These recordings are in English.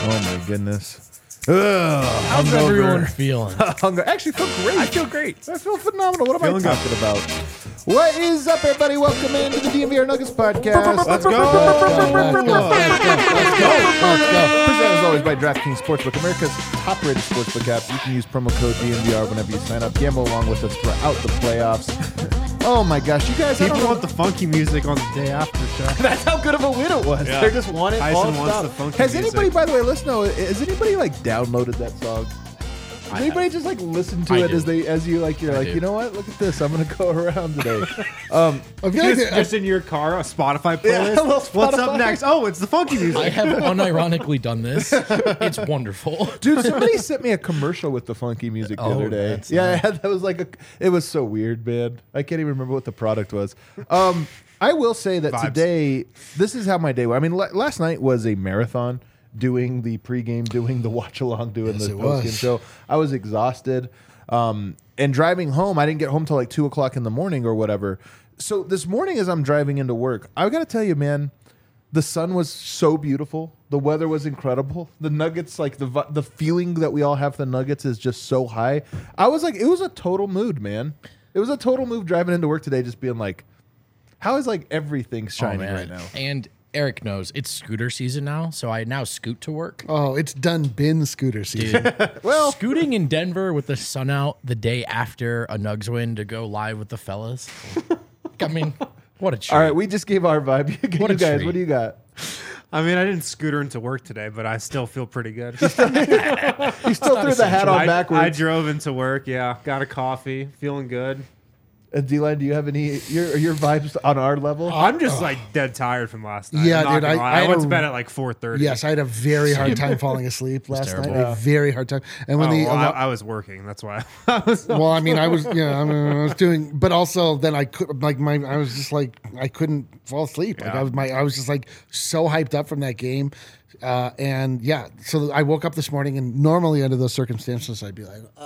Oh my goodness. How's everyone feeling? Hunger. Actually, feel great. I feel great. I feel phenomenal. What am I talking about? What is up, everybody? Welcome into the DMVR Nuggets podcast. Let's go. Presented as always by DraftKings Sportsbook, America's top-rated sportsbook app. You can use promo code DMVR whenever you sign up. Gamble along with us throughout the playoffs. Oh my gosh, you guys! People want the funky music on the day after show. That's how good of a win it was. Yeah. They just want it. Tyson all wants stop. the funky Has music. anybody, by the way, listen? Has anybody like downloaded that song? Does anybody just like listen to I it do. as you like? You're I like, do. you know what? Look at this. I'm gonna go around today. I feel like Just in your car, a Spotify Yeah, playlist. a little What's Spotify. up next? Oh, it's the funky music. I have unironically done this. It's wonderful. Dude, somebody sent me a commercial with the funky music the Oh, other day. that's Yeah, that was like it was so weird, man. I can't even remember what the product was. I will say that Vibes. today, this is how my day went. I mean, last night was a marathon. Doing the pregame, doing the watch along, doing Yes, the it postgame was. show. I was exhausted. And driving home, I didn't get home till like 2 o'clock in the morning or whatever. So this morning, as I'm driving into work, I got to tell you, man, the sun was so beautiful. The weather was incredible. The Nuggets, like the feeling that we all have for the Nuggets is just so high. I was like, it was a total mood, man. It was a total mood driving into work today, just being like, how is like everything shining right now? And Eric knows it's scooter season now, so I now scoot to work. oh, it's done been scooter season. Dude, Well, scooting in Denver with the sun out the day after a Nugs win to go live with the fellas. I mean, what a treat. all right, we just gave our vibe. What a You guys, treat. what do you got? I mean, I didn't scooter into work today, but I still feel pretty good. You still threw the hat on I backwards. drove into work. Yeah, got a coffee, feeling good. D-Line, do you have any your vibes on our level? I'm just like dead tired from last night. Yeah, I'm not dude, gonna I lie. I had went a- to bed at like 4:30. Yes, I had a very hard time falling asleep last night. terrible. A very hard time. And when I was working. That's why. I was. well, I mean, I was, I was doing, but also then I could, like, I was just like, I couldn't fall asleep. Like, Yeah. I was just like so hyped up from that game. And yeah, so I woke up this morning, and normally under those circumstances, I'd be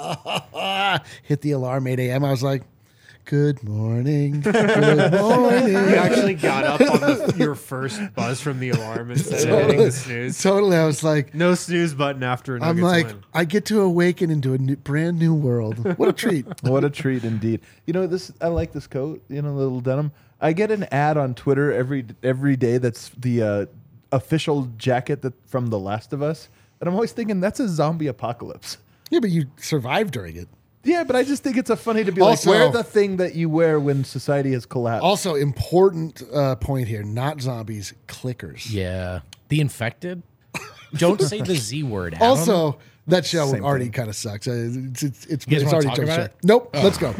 like, hit the alarm 8 a.m. I was like, good morning. Good morning. You actually got up on your first buzz from the alarm instead of hitting the snooze. Totally. I was like, No snooze button after a Nuggets I'm like, win. I get to awaken into a brand new world. What a treat. What a treat indeed. You know, this I like this coat, you know, little denim. I get an ad on Twitter every day that's the official jacket that from The Last of Us. And I'm always thinking that's a zombie apocalypse. Yeah, but you survived during it. Yeah, but I just think it's a funny to be Also- like, wear the thing that you wear when society has collapsed. Also, important point here: not zombies, clickers. Yeah. The infected? Don't say the Z word, Adam. Also, that show Same already thing. kind of sucks. It's guys wanna already talk jumped about start. it? Nope. Let's go.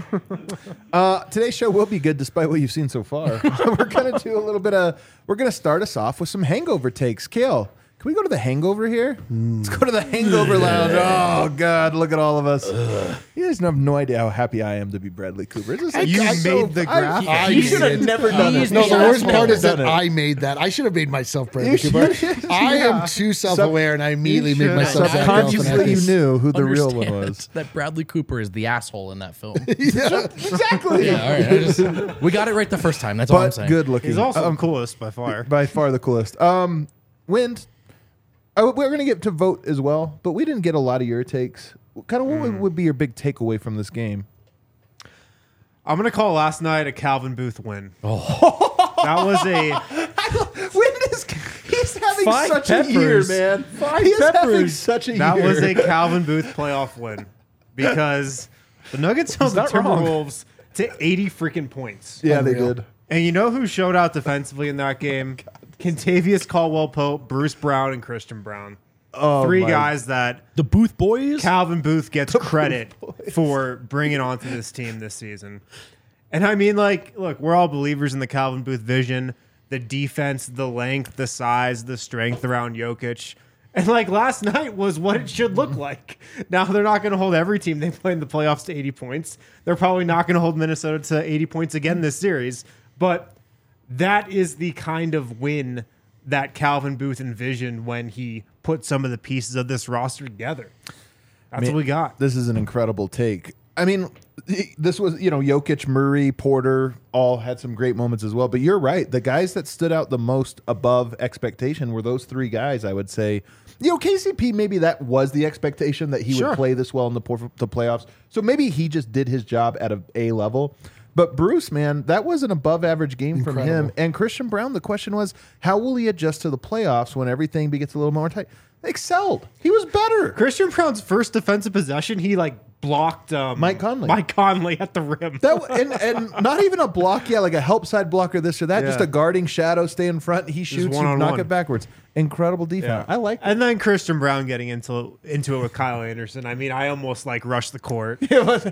Today's show will be good despite what you've seen so far. We're gonna do a little bit of. We're gonna start us off with some hangover takes. Kale, can we go to the hangover here? Let's go to the hangover lounge. Oh God, look at all of us. You guys have no idea how happy I am to be Bradley Cooper. It's just like, You I'm so- made the graph? You should have did. never done it. No, the worst part is that Done it. I made that. I should have made myself Bradley You Cooper. should- I yeah. am too self-aware, and I immediately made should. myself Zach Subconsciously, you Galifianakis. knew who the real one Understand was. that Bradley Cooper is the asshole in that film. Exactly. Yeah, all right. We got it right the first time. That's all I'm But saying. good looking. He's also the coolest by far. by far the coolest. Wind. We're going to get to vote as well, but we didn't get a lot of your takes. Kind of what would be your big takeaway from this game? I'm gonna call last night a Calvin Booth win. Oh, that was a Wind is he's having Five such a year, peppers. man. Five He's having peppers. such a that year. was a Calvin Booth playoff win because the Nuggets held the not wrong. Timberwolves to 80 freaking points. yeah, they Unreal. did. And you know who showed out defensively in that game? Contavious Caldwell-Pope, Bruce Brown, and Christian Brown. Oh, Three my- guys that the Booth boys? Calvin Booth gets credit for bringing onto this team this season. And I mean, like, look, we're all believers in the Calvin Booth vision, the defense, the length, the size, the strength around Jokic. And like last night was what it should look like. Now they're not going to hold every team they play in the playoffs to 80 points. They're probably not going to hold Minnesota to 80 points again this series. But that is the kind of win that Calvin Booth envisioned when he put some of the pieces of this roster together. That's what we got. This is an incredible take. I mean, this was, Jokic, Murray, Porter all had some great moments as well. But you're right. The guys that stood out the most above expectation were those three guys, I would say. KCP, maybe that was the expectation that he Sure. would play this well in the playoffs. So maybe he just did his job at A level. But Bruce, man, that was an above average game from him. Incredible. And Christian Brown, the question was, how will he adjust to the playoffs when everything gets a little more tight? They excelled. He was better. Christian Brown's first defensive possession, he blocked Mike Conley. Mike Conley at the rim. And not even a block, like a help side block or this or that, Yeah. just a guarding shadow, stay in front, he shoots, you one-on-one. knock it backwards. Incredible defense. I like that. And then Christian Brown getting into it with Kyle Anderson. I mean, I almost rushed the court.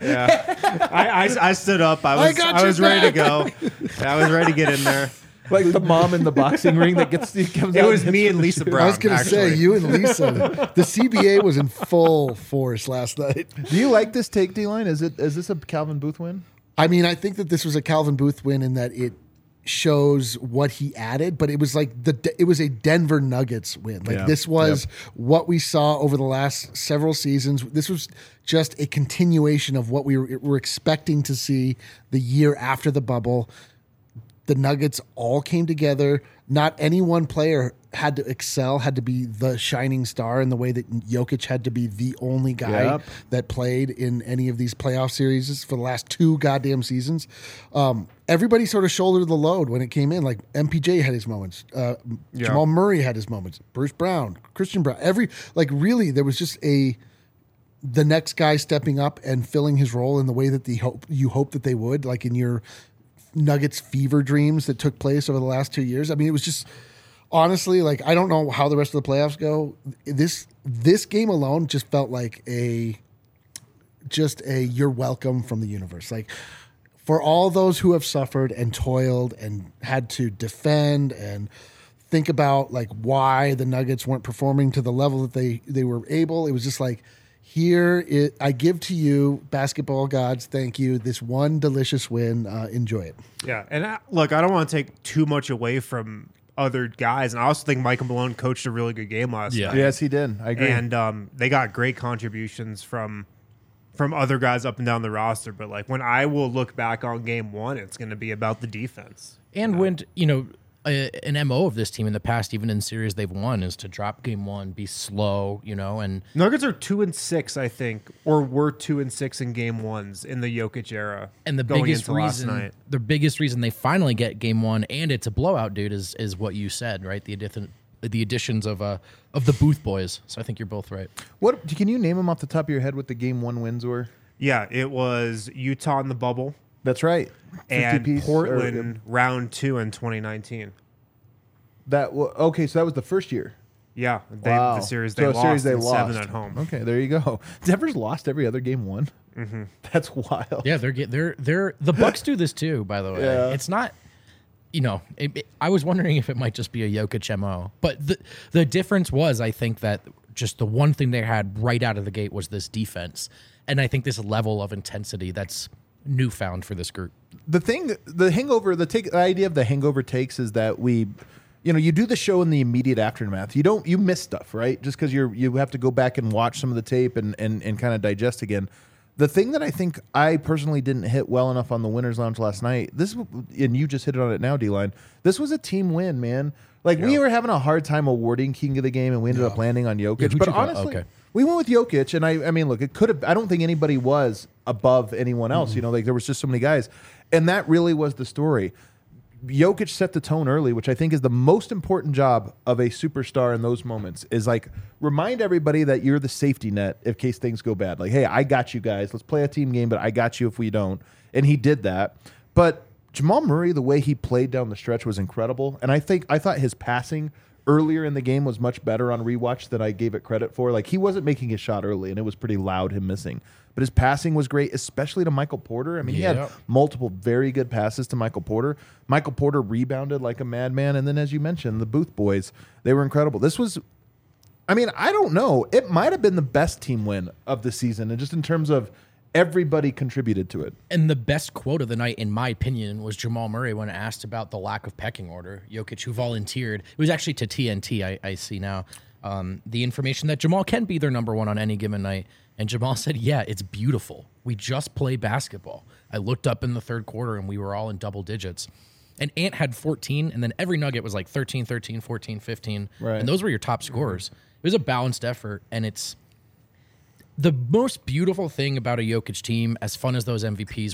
I stood up. I was ready to go. I was ready to get in there. Like the mom in the boxing ring that comes It out was and me hits and the Lisa shoe. Brown. I was going to say, actually. you and Lisa. The CBA was in full force last night. Do you like this take, D-line? Is this a Calvin Booth win? I mean, I think that this was a Calvin Booth win in that it shows what he added, but it was it was a Denver Nuggets win. This was what we saw over the last several seasons. This was just a continuation of what we were expecting to see the year after the bubble. The Nuggets all came together. Not any one player had to excel, had to be the shining star in the way that Jokic had to be the only guy that played in any of these playoff series for the last 2 goddamn seasons. Everybody sort of shouldered the load when it came in. Like MPJ had his moments. Jamal Murray had his moments. Bruce Brown, Christian Brown. Really, there was just the next guy stepping up and filling his role in the way that you hope that they would, like in your Nuggets fever dreams that took place over the last 2 years. I mean, it was just honestly, I don't know how the rest of the playoffs go. This game alone just felt like a you're welcome from the universe. Like, for all those who have suffered and toiled and had to defend and think about why the Nuggets weren't performing to the level that they were able, it was just I give to you, basketball gods, thank you, this one delicious win. Enjoy it. Yeah, and I don't want to take too much away from other guys, and I also think Michael Malone coached a really good game last night. Yes, he did. I agree. And they got great contributions from other guys up and down the roster. But when I will look back on game 1, it's going to be about the defense. And when an MO of this team in the past, even in series they've won, is to drop game 1, be slow, and Nuggets are 2-6, I think, or were 2-6 in game 1s in the Jokic era. and the going biggest into last reason, night. the biggest reason they finally get game 1 and it's a blowout, dude, is what you said, right? The additions of the Booth boys. So I think you're both right. What can you name them off the top of your head? What the game 1 wins were? Yeah, it was Utah in the bubble That's right. 50 and piece, Portland round 2 in 2019. Okay, so that was the first year. Yeah, Wow. the series So they a lost, series they and 7 lost. at home. Okay, there you go. Denver's lost every other game 1. Mm-hmm. That's wild. Yeah, they're the Bucks do this too. By the way, Yeah. it's not. I was wondering if it might just be a Jokic MO, but the difference was, I think, that just the one thing they had right out of the gate was this defense, and I think this level of intensity that's newfound for this group. The idea of the hangover takes is that you do the show in the immediate aftermath. You miss stuff, right? Just because you have to go back and watch some of the tape and kind of digest again. The thing that I think I personally didn't hit well enough on the Winners Lounge last night, and you just hit it on it now, D-Line, this was a team win, man. We were having a hard time awarding King of the Game, and we ended up landing on Jokic. who'd But you go? honestly, Okay. we went with Jokic, and I mean, look, it could have. I don't think anybody was above anyone else. There was just so many guys, and that really was the story. Jokic set the tone early, which I think is the most important job of a superstar in those moments, is remind everybody that you're the safety net in case things go bad. Hey, I got you guys. Let's play a team game, but I got you if we don't. And he did that. But Jamal Murray, the way he played down the stretch was incredible. And I thought his passing earlier in the game was much better on rewatch than I gave it credit for. He wasn't making his shot early, and it was pretty loud, him missing. But his passing was great, especially to Michael Porter. I mean, he had multiple very good passes to Michael Porter. Michael Porter rebounded like a madman. And then, as you mentioned, the Booth boys, they were incredible. This was, I mean, I don't know. It might have been the best team win of the season, and just in terms of everybody contributed to it. And the best quote of the night, in my opinion, was Jamal Murray when asked about the lack of pecking order. Jokic, who volunteered, it was actually to TNT, I see now, the information that Jamal can be their number 1 on any given night. And Jamal said, yeah, it's beautiful. We just play basketball. I looked up in the third quarter, and we were all in double digits. And Ant had 14, and then every Nugget was 13, 13, 14, 15. Right. And those were your top scorers. was a balanced effort, and it's the most beautiful thing about a Jokic team, as fun as those MVPs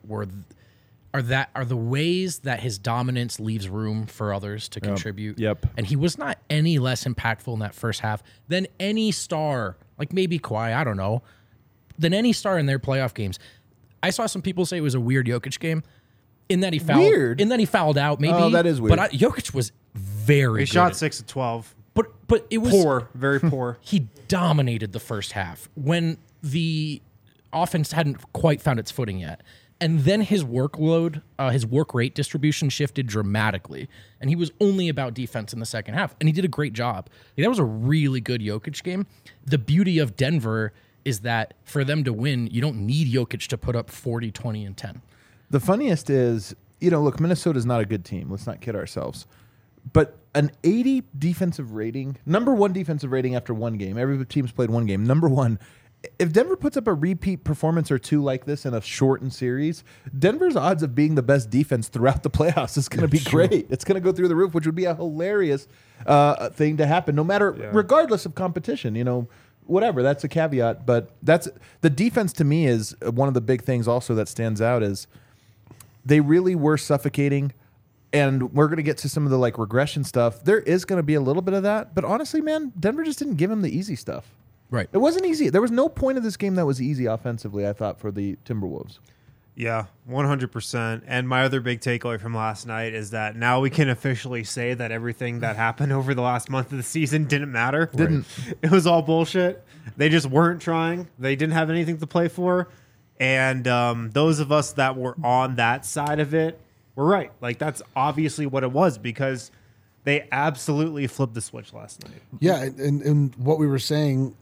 are the ways that his dominance leaves room for others to contribute. Yep. And he was not any less impactful in that first half than any star, like maybe Kawhi, I don't know, than any star in their playoff games. I saw some people say it was a weird Jokic game in that he fouled out, maybe. Oh, that is weird. But Jokic was very He good. shot 6 of 12. But it was Poor, very poor. He dominated the first half when the offense hadn't quite found its footing yet. And then his workload, his work rate distribution shifted dramatically. And he was only about defense in the second half. And he did a great job. That was a really good Jokic game. The beauty of Denver is that for them to win, you don't need Jokic to put up 40, 20, and 10. The funniest is, look, Minnesota's not a good team. Let's not kid ourselves. But an 80 defensive rating, number one defensive rating after one game. Every team's played one game. Number one. If Denver puts up a repeat performance or two like this in a shortened series, Denver's odds of being the best defense throughout the playoffs is going to be great. It's going to go through the roof, which would be a hilarious thing to happen, regardless of competition. Whatever. That's a caveat, but that's the defense to me is one of the big things also that stands out is they really were suffocating. And we're going to get to some of the regression stuff. There is going to be a little bit of that, but honestly, man, Denver just didn't give him the easy stuff. Right. It wasn't easy. There was no point of this game that was easy offensively, I thought, for the Timberwolves. Yeah, 100%. And my other big takeaway from last night is that now we can officially say that everything that happened over the last month of the season didn't matter. Didn't. It was all bullshit. They just weren't trying. They didn't have anything to play for. And those of us that were on that side of it were right. That's obviously what it was because they absolutely flipped the switch last night. Yeah, and what we were saying,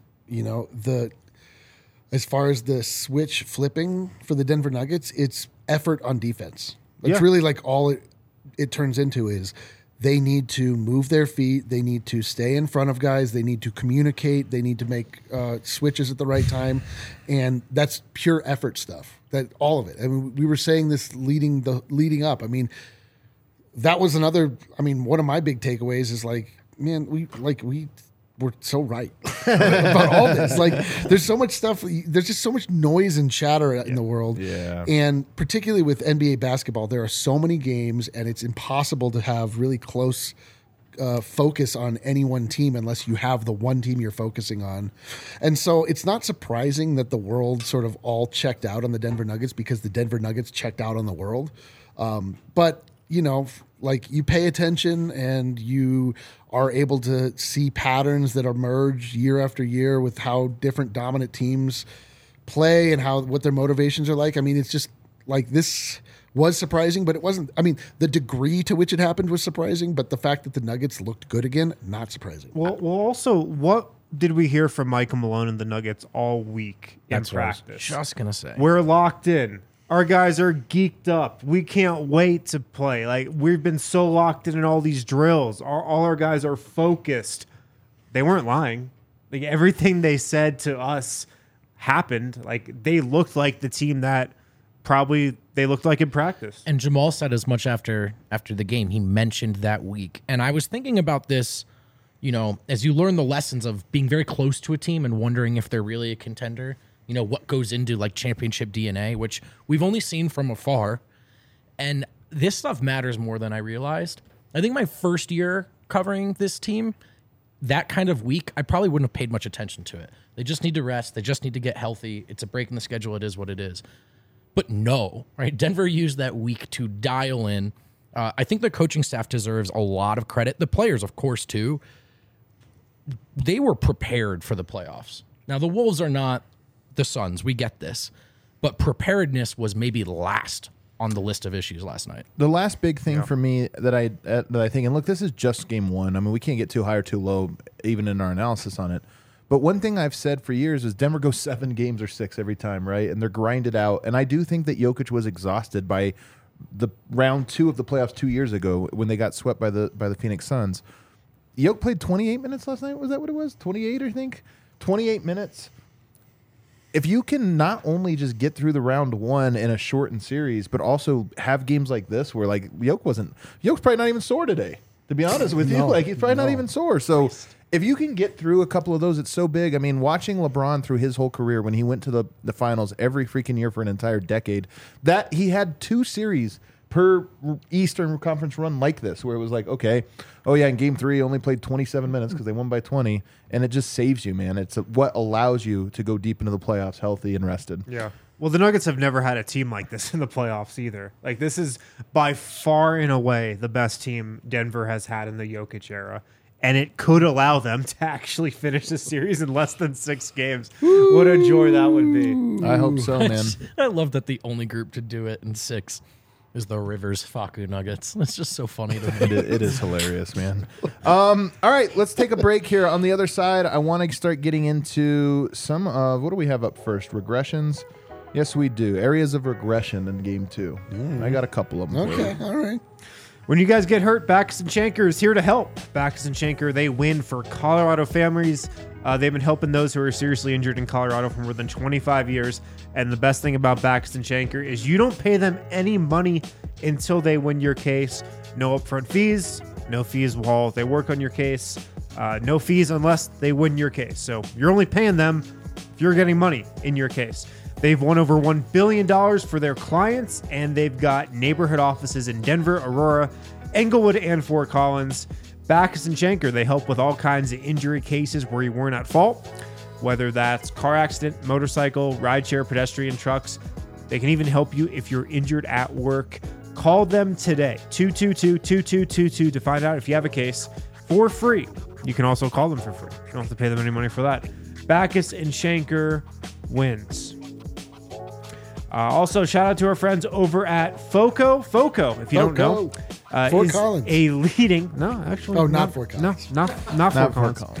as far as the switch flipping for the Denver Nuggets, it's effort on defense. It's really all it turns into is they need to move their feet. They need to stay in front of guys. They need to communicate. They need to make switches at the right time. And that's pure effort stuff. That all of it. I mean, we were saying this leading up. I mean, that was another. I mean, one of my big takeaways is we were so right about all this. There's so much stuff. There's just so much noise and chatter in the world. Yeah. And particularly with NBA basketball, there are so many games, and it's impossible to have really close focus on any one team unless you have the one team you're focusing on. And so it's not surprising that the world sort of all checked out on the Denver Nuggets because the Denver Nuggets checked out on the world. But you pay attention and you are able to see patterns that emerge year after year with how different dominant teams play and what their motivations are like. I mean, it's just this was surprising, but it wasn't. I mean, the degree to which it happened was surprising, but the fact that the Nuggets looked good again, not surprising. Well, also, what did we hear from Michael Malone and the Nuggets all week in practice? Just going to say. We're locked in. Our guys are geeked up. We can't wait to play. We've been so locked in all these drills. All our guys are focused. They weren't lying. Everything they said to us happened. They looked like the team that probably they looked like in practice. And Jamal said as much after the game. He mentioned that week. And I was thinking about this, as you learn the lessons of being very close to a team and wondering if they're really a contender. What goes into championship DNA, which we've only seen from afar. And this stuff matters more than I realized. I think my first year covering this team, that kind of week, I probably wouldn't have paid much attention to it. They just need to rest. They just need to get healthy. It's a break in the schedule. It is what it is. But no, right? Denver used that week to dial in. I think the coaching staff deserves a lot of credit. The players, of course, too. They were prepared for the playoffs. Now, the Wolves are not the Suns. We get this. But preparedness was maybe last on the list of issues last night. The last big thing for me that I think, and look, this is just game one. I mean, we can't get too high or too low, even in our analysis on it. But one thing I've said for years is Denver goes 7 games or 6 every time, right? And they're grinded out. And I do think that Jokic was exhausted by the round 2 of the playoffs 2 years ago when they got swept by the Phoenix Suns. Jokic played 28 minutes last night. Was that what it was? 28, I think. 28 minutes. If you can not only just get through the round 1 in a shortened series, but also have games like this where Jokic's probably not even sore today, to be honest with you. He's probably not even sore. So if you can get through a couple of those, it's so big. I mean, watching LeBron through his whole career when he went to the finals every freaking year for an entire decade, that he had 2 series per Eastern Conference run like this, where it was like, okay, oh yeah, in game 3, only played 27 minutes because they won by 20, and it just saves you, man. It's what allows you to go deep into the playoffs healthy and rested. Yeah. Well, the Nuggets have never had a team like this in the playoffs either. Like, this is by far and away the best team Denver has had in the Jokic era. And it could allow them to actually finish the series in less than 6 games. What a joy that would be. I hope so, man. I love that the only group to do it in 6 is the Rivers Facu Nuggets. It's just so funny to me. It is hilarious, man. All right, let's take a break here. On the other side, I want to start getting into some of, what do we have up first? Regressions? Yes, we do. Areas of regression in game 2. I got a couple of them. Okay, all right. When you guys get hurt, Backus and Shanker is here to help. Backus and Shanker, they win for Colorado families. They've been helping those who are seriously injured in Colorado for more than 25 years. And the best thing about Backus and Shanker is you don't pay them any money until they win your case. No upfront fees, no fees while they work on your case, no fees unless they win your case. So you're only paying them if you're getting money in your case. They've won over $1 billion for their clients, and they've got neighborhood offices in Denver, Aurora, Englewood, and Fort Collins. Backus and Shanker, they help with all kinds of injury cases where you weren't at fault, whether that's car accident, motorcycle, rideshare, pedestrian, trucks. They can even help you if you're injured at work. Call them today, 222-2222, to find out if you have a case for free. You can also call them for free. You don't have to pay them any money for that. Backus and Shanker wins. Also, shout out to our friends over at FOCO. FOCO, if you don't know, Fort is Collins. a leading. No, actually, Oh, not Fort Collins. No, not Fort Collins.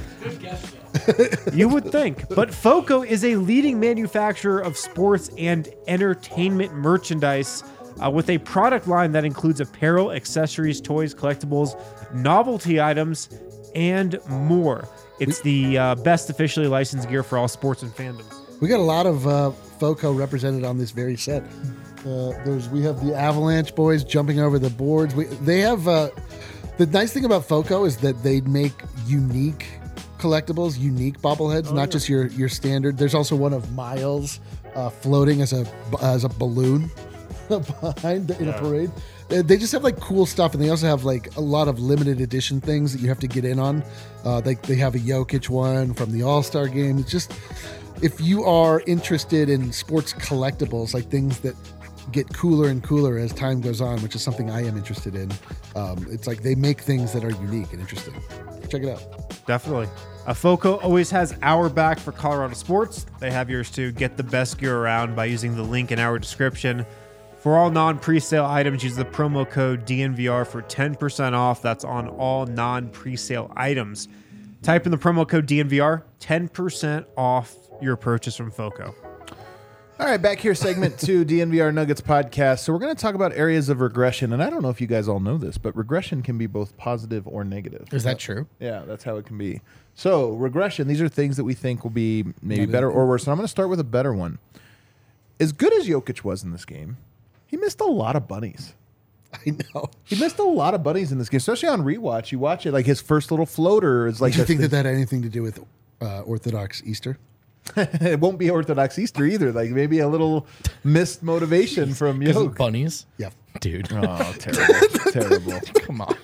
You would think, but FOCO is a leading manufacturer of sports and entertainment merchandise with a product line that includes apparel, accessories, toys, collectibles, novelty items, and more. It's the best officially licensed gear for all sports and fandoms. We got a lot of FOCO represented on this very set. We have the Avalanche boys jumping over the boards. They have the nice thing about FOCO is that they make unique collectibles, unique bobbleheads, not just your standard. There's also one of Miles floating as a balloon behind in a parade. They just have like cool stuff, and they also have like a lot of limited edition things that you have to get in on. They have a Jokic one from the All-Star game. It's just, if you are interested in sports collectibles, like things that get cooler and cooler as time goes on, which is something I am interested in, it's like they make things that are unique and interesting. Check it out. Definitely. FOCO always has our back for Colorado sports. They have yours too. Get the best gear around by using the link in our description. For all non-presale items, use the promo code DNVR for 10% off. That's on all non-presale items. Type in the promo code DNVR, 10% off your purchase from FOCO. All right, back here, segment 2, DNVR Nuggets podcast. So we're going to talk about areas of regression, and I don't know if you guys all know this, but regression can be both positive or negative. Is that true? Yeah, that's how it can be. So regression, these are things that we think will be maybe better or worse. And I'm going to start with a better one. As good as Jokic was in this game, he missed a lot of bunnies. I know. He missed a lot of bunnies in this game, especially on rewatch. You watch it, like his first little floater is like. Do you think that had anything to do with Orthodox Easter? It won't be Orthodox Easter either. Like maybe a little missed motivation from Jokic. Bunnies? Yeah. Dude. Oh, terrible. Terrible. Come on.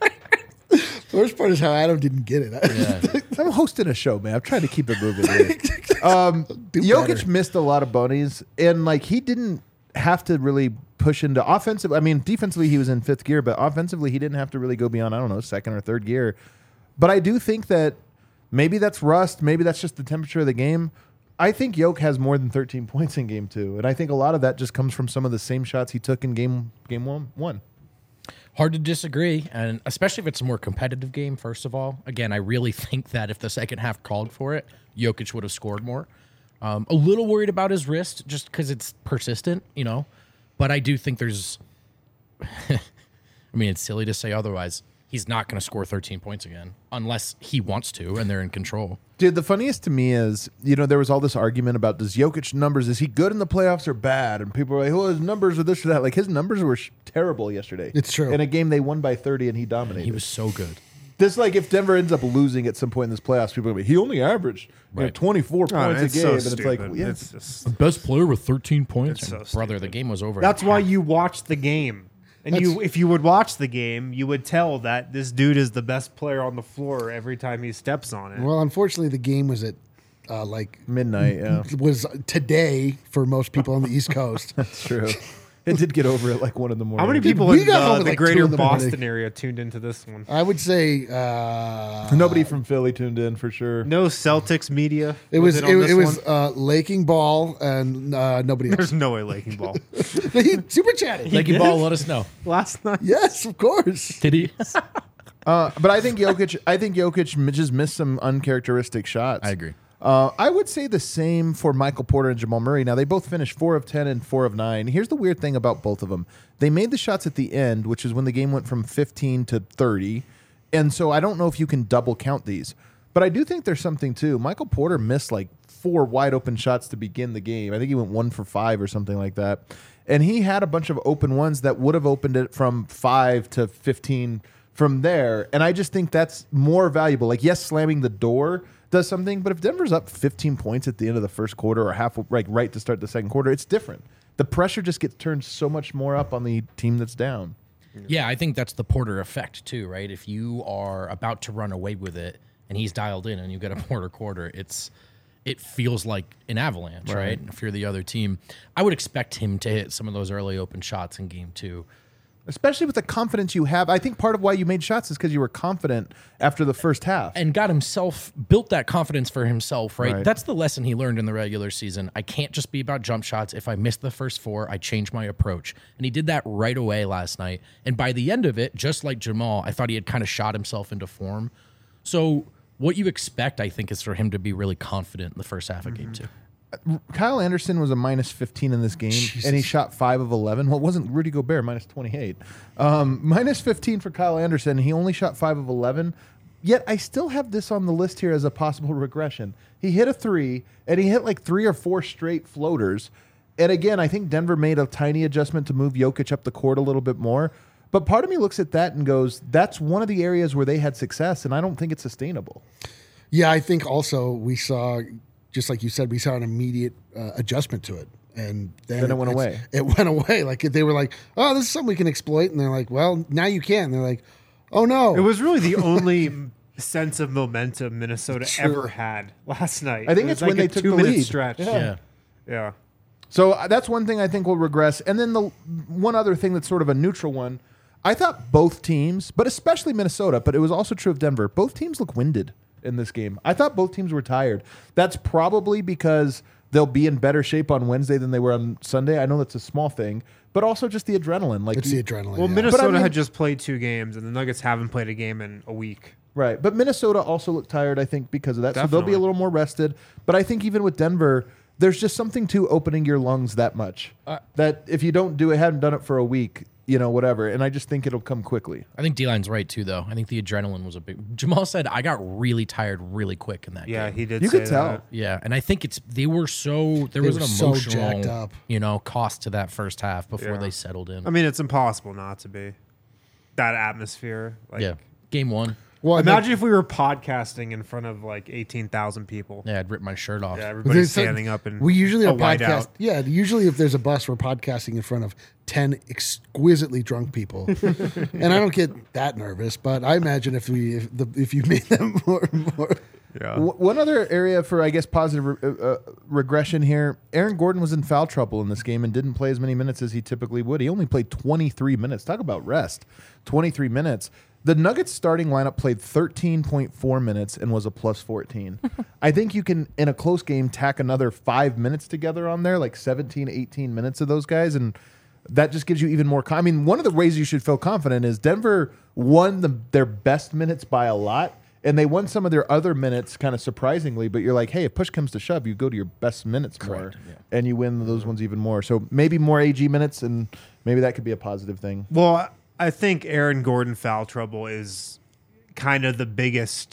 The worst part is how Adam didn't get it. Yeah. I'm hosting a show, man. I'm trying to keep it moving here. Jokic better. missed a lot of bunnies, and like he didn't have to really push into offensive. I mean, defensively he was in 5th gear, but offensively he didn't have to really go beyond, I don't know, 2nd or 3rd gear. But I do think that maybe that's rust. Maybe that's just the temperature of the game. I think Jokic has more than 13 points in game 2, and I think a lot of that just comes from some of the same shots he took in game one. Hard to disagree, and especially if it's a more competitive game, first of all. Again, I really think that if the second half called for it, Jokic would have scored more. A little worried about his wrist just because it's persistent, But I do think there's... I mean, it's silly to say otherwise. He's not going to score 13 points again unless he wants to and they're in control. Dude, the funniest to me is, there was all this argument about does Jokic numbers, is he good in the playoffs or bad? And people were like, well, his numbers are this or that. Like, his numbers were terrible yesterday. It's true. In a game they won by 30 and he dominated. He was so good. This like if Denver ends up losing at some point in this playoffs, people are gonna be he only averaged 24 points a it's game, so and it's like stupid. yeah, It's just, Best player with 13 points. It's so Brother, stupid. the game was over. that's why you watch the game. And if you would watch the game, you would tell that this dude is the best player on the floor every time he steps on it. Well, unfortunately, the game was at like midnight. Yeah, was today for most people on the East Coast. it's true. It did get over at like 1 a.m. How many people we in got home at the like greater 2 in the morning. Boston area tuned into this one? I would say Nobody from Philly tuned in for sure. No Celtics media. it was on this it was one? Laking Ball and nobody else. There's no way Laking Ball. He super chatted. Like you ball, let us know. Last night. Yes, of course. Did he? But I think Jokic just missed some uncharacteristic shots. I agree. I would say the same for Michael Porter and Jamal Murray. Now, they both finished 4 of 10 and 4 of 9. Here's the weird thing about both of them. They made the shots at the end, which is when the game went from 15 to 30. And so I don't know if you can double count these. But I do think there's something, too. Michael Porter missed like 4 wide open shots to begin the game. I think he went 1 for 5 or something like that. And he had a bunch of open ones that would have opened it from 5 to 15 from there. And I just think that's more valuable. Like, yes, slamming the door does something, but if Denver's up 15 points at the end of the first quarter or half right to start the second quarter, it's different. The pressure just gets turned so much more up on the team that's down. Yeah, I think that's the Porter effect too, right? If you are about to run away with it and he's dialed in and you get a Porter quarter, it feels like an avalanche, right? If you're the other team, I would expect him to hit some of those early open shots in game 2. Especially with the confidence you have. I think part of why you made shots is because you were confident after the first half. And built that confidence for himself, right? Right. That's the lesson he learned in the regular season. I can't just be about jump shots. If I miss the first 4, I change my approach. And he did that right away last night. And by the end of it, just like Jamal, I thought he had kind of shot himself into form. So what you expect, I think, is for him to be really confident in the first half of game 2. Kyle Anderson was a minus 15 in this game, and he shot 5 of 11. Well, it wasn't Rudy Gobert, minus 28. Minus 15 for Kyle Anderson. He only shot 5 of 11. Yet I still have this on the list here as a possible regression. He hit a 3, and he hit like 3 or 4 straight floaters. And again, I think Denver made a tiny adjustment to move Jokic up the court a little bit more. But part of me looks at that and goes, that's one of the areas where they had success, and I don't think it's sustainable. Yeah, I think also we saw, just like you said, we saw an immediate adjustment to it. And then it went away. It went away. Like they were like, oh, this is something we can exploit. And they're like, well, now you can. And they're like, oh, no. It was really the only sense of momentum Minnesota ever had last night. I think It it's was when like they a took the 2-minute lead. stretch. Yeah. Yeah. So that's one thing I think will regress. And then the one other thing that's sort of a neutral one, I thought both teams, but especially Minnesota, but it was also true of Denver, both teams look winded in this game. I thought both teams were tired. That's probably because they'll be in better shape on Wednesday than they were on Sunday. I know that's a small thing, but also just the adrenaline. Like It's the adrenaline. Well, yeah. Minnesota But I mean- had just played 2 games, and the Nuggets haven't played a game in a week. Right. But Minnesota also looked tired, I think, because of that. So they'll be Definitely. a little more rested. But I think even with Denver, there's just something to opening your lungs that much. That if you don't do it, hadn't done it for a week, whatever. And I just think it'll come quickly. I think D-Line's right, too, though. I think the adrenaline was a big... Jamal said, I got really tired really quick in that Yeah, game. he did You say could tell. that. Yeah, and I think there was an were so emotional, jacked up. cost to that first half before Yeah. they settled in. I mean, it's impossible not to be. That atmosphere. Like, yeah, game 1. Well, Imagine if we were podcasting in front of like 18,000 people. Yeah, I'd rip my shirt off. Yeah, everybody's There's standing up and we usually a have whiteout. podcast. Yeah, usually if there's a bus, we're podcasting in front of 10 exquisitely drunk people, and I don't get that nervous. But I imagine if you made them more. Yeah. One other area for, I guess, positive regression here, Aaron Gordon was in foul trouble in this game and didn't play as many minutes as he typically would. He only played 23 minutes. Talk about rest. 23 minutes. The Nuggets starting lineup played 13.4 minutes and was a plus 14. I think you can, in a close game, tack another 5 minutes together on there, like 17, 18 minutes of those guys, and that just gives you even more. I mean, one of the ways you should feel confident is Denver won their best minutes by a lot, and they won some of their other minutes kind of surprisingly, but you're like, hey, if push comes to shove, you go to your best minutes more, Correct, yeah. and you win those ones even more. So maybe more AG minutes, and maybe that could be a positive thing. Well, I think Aaron Gordon foul trouble is kind of the biggest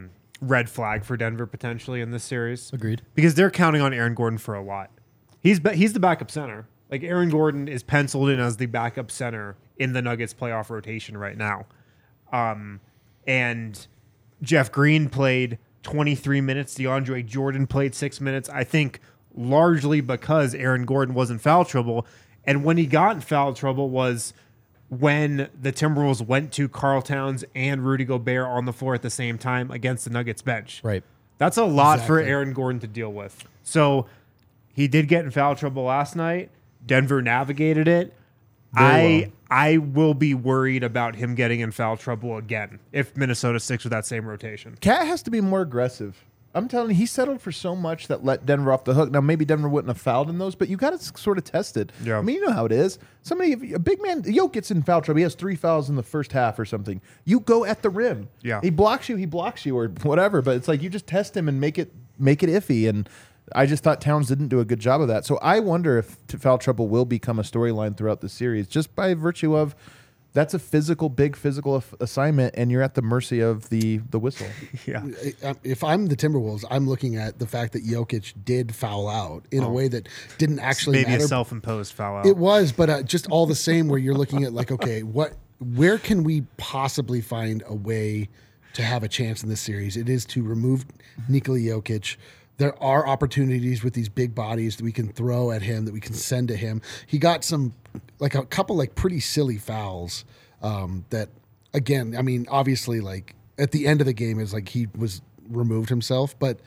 red flag for Denver potentially in this series. Agreed. Because they're counting on Aaron Gordon for a lot. He's the backup center. Like Aaron Gordon is penciled in as the backup center in the Nuggets playoff rotation right now. and Jeff Green played 23 minutes. DeAndre Jordan played 6 minutes. I think largely because Aaron Gordon was in foul trouble. And when he got in foul trouble was when the Timberwolves went to Karl Towns and Rudy Gobert on the floor at the same time against the Nuggets bench. Right. That's a lot for Exactly. Aaron Gordon to deal with. So he did get in foul trouble last night. Denver navigated it. I will be worried about him getting in foul trouble again if Minnesota sticks with that same rotation. Cat has to be more aggressive. I'm telling you, he settled for so much that let Denver off the hook. Now, maybe Denver wouldn't have fouled in those, but you got to sort of test it. Yeah. I mean, you know how it is. A big man, Jokic gets in foul trouble. He has 3 fouls in the first half or something. You go at the rim. Yeah. He blocks you, or whatever, but it's like you just test him and make it iffy. And I just thought Towns didn't do a good job of that. So I wonder if foul trouble will become a storyline throughout the series just by virtue of that's a big physical assignment, and you're at the mercy of the whistle. Yeah. If I'm the Timberwolves, I'm looking at the fact that Jokic did foul out in a way that didn't actually Maybe matter. a self-imposed foul out. It was, but just all the same, where you're looking at like, okay, where can we possibly find a way to have a chance in this series? It is to remove Nikola Jokic. There are opportunities with these big bodies that we can throw at him, that we can send to him. He got a couple pretty silly fouls that, again, I mean, obviously, like at the end of the game is like he was removed himself, but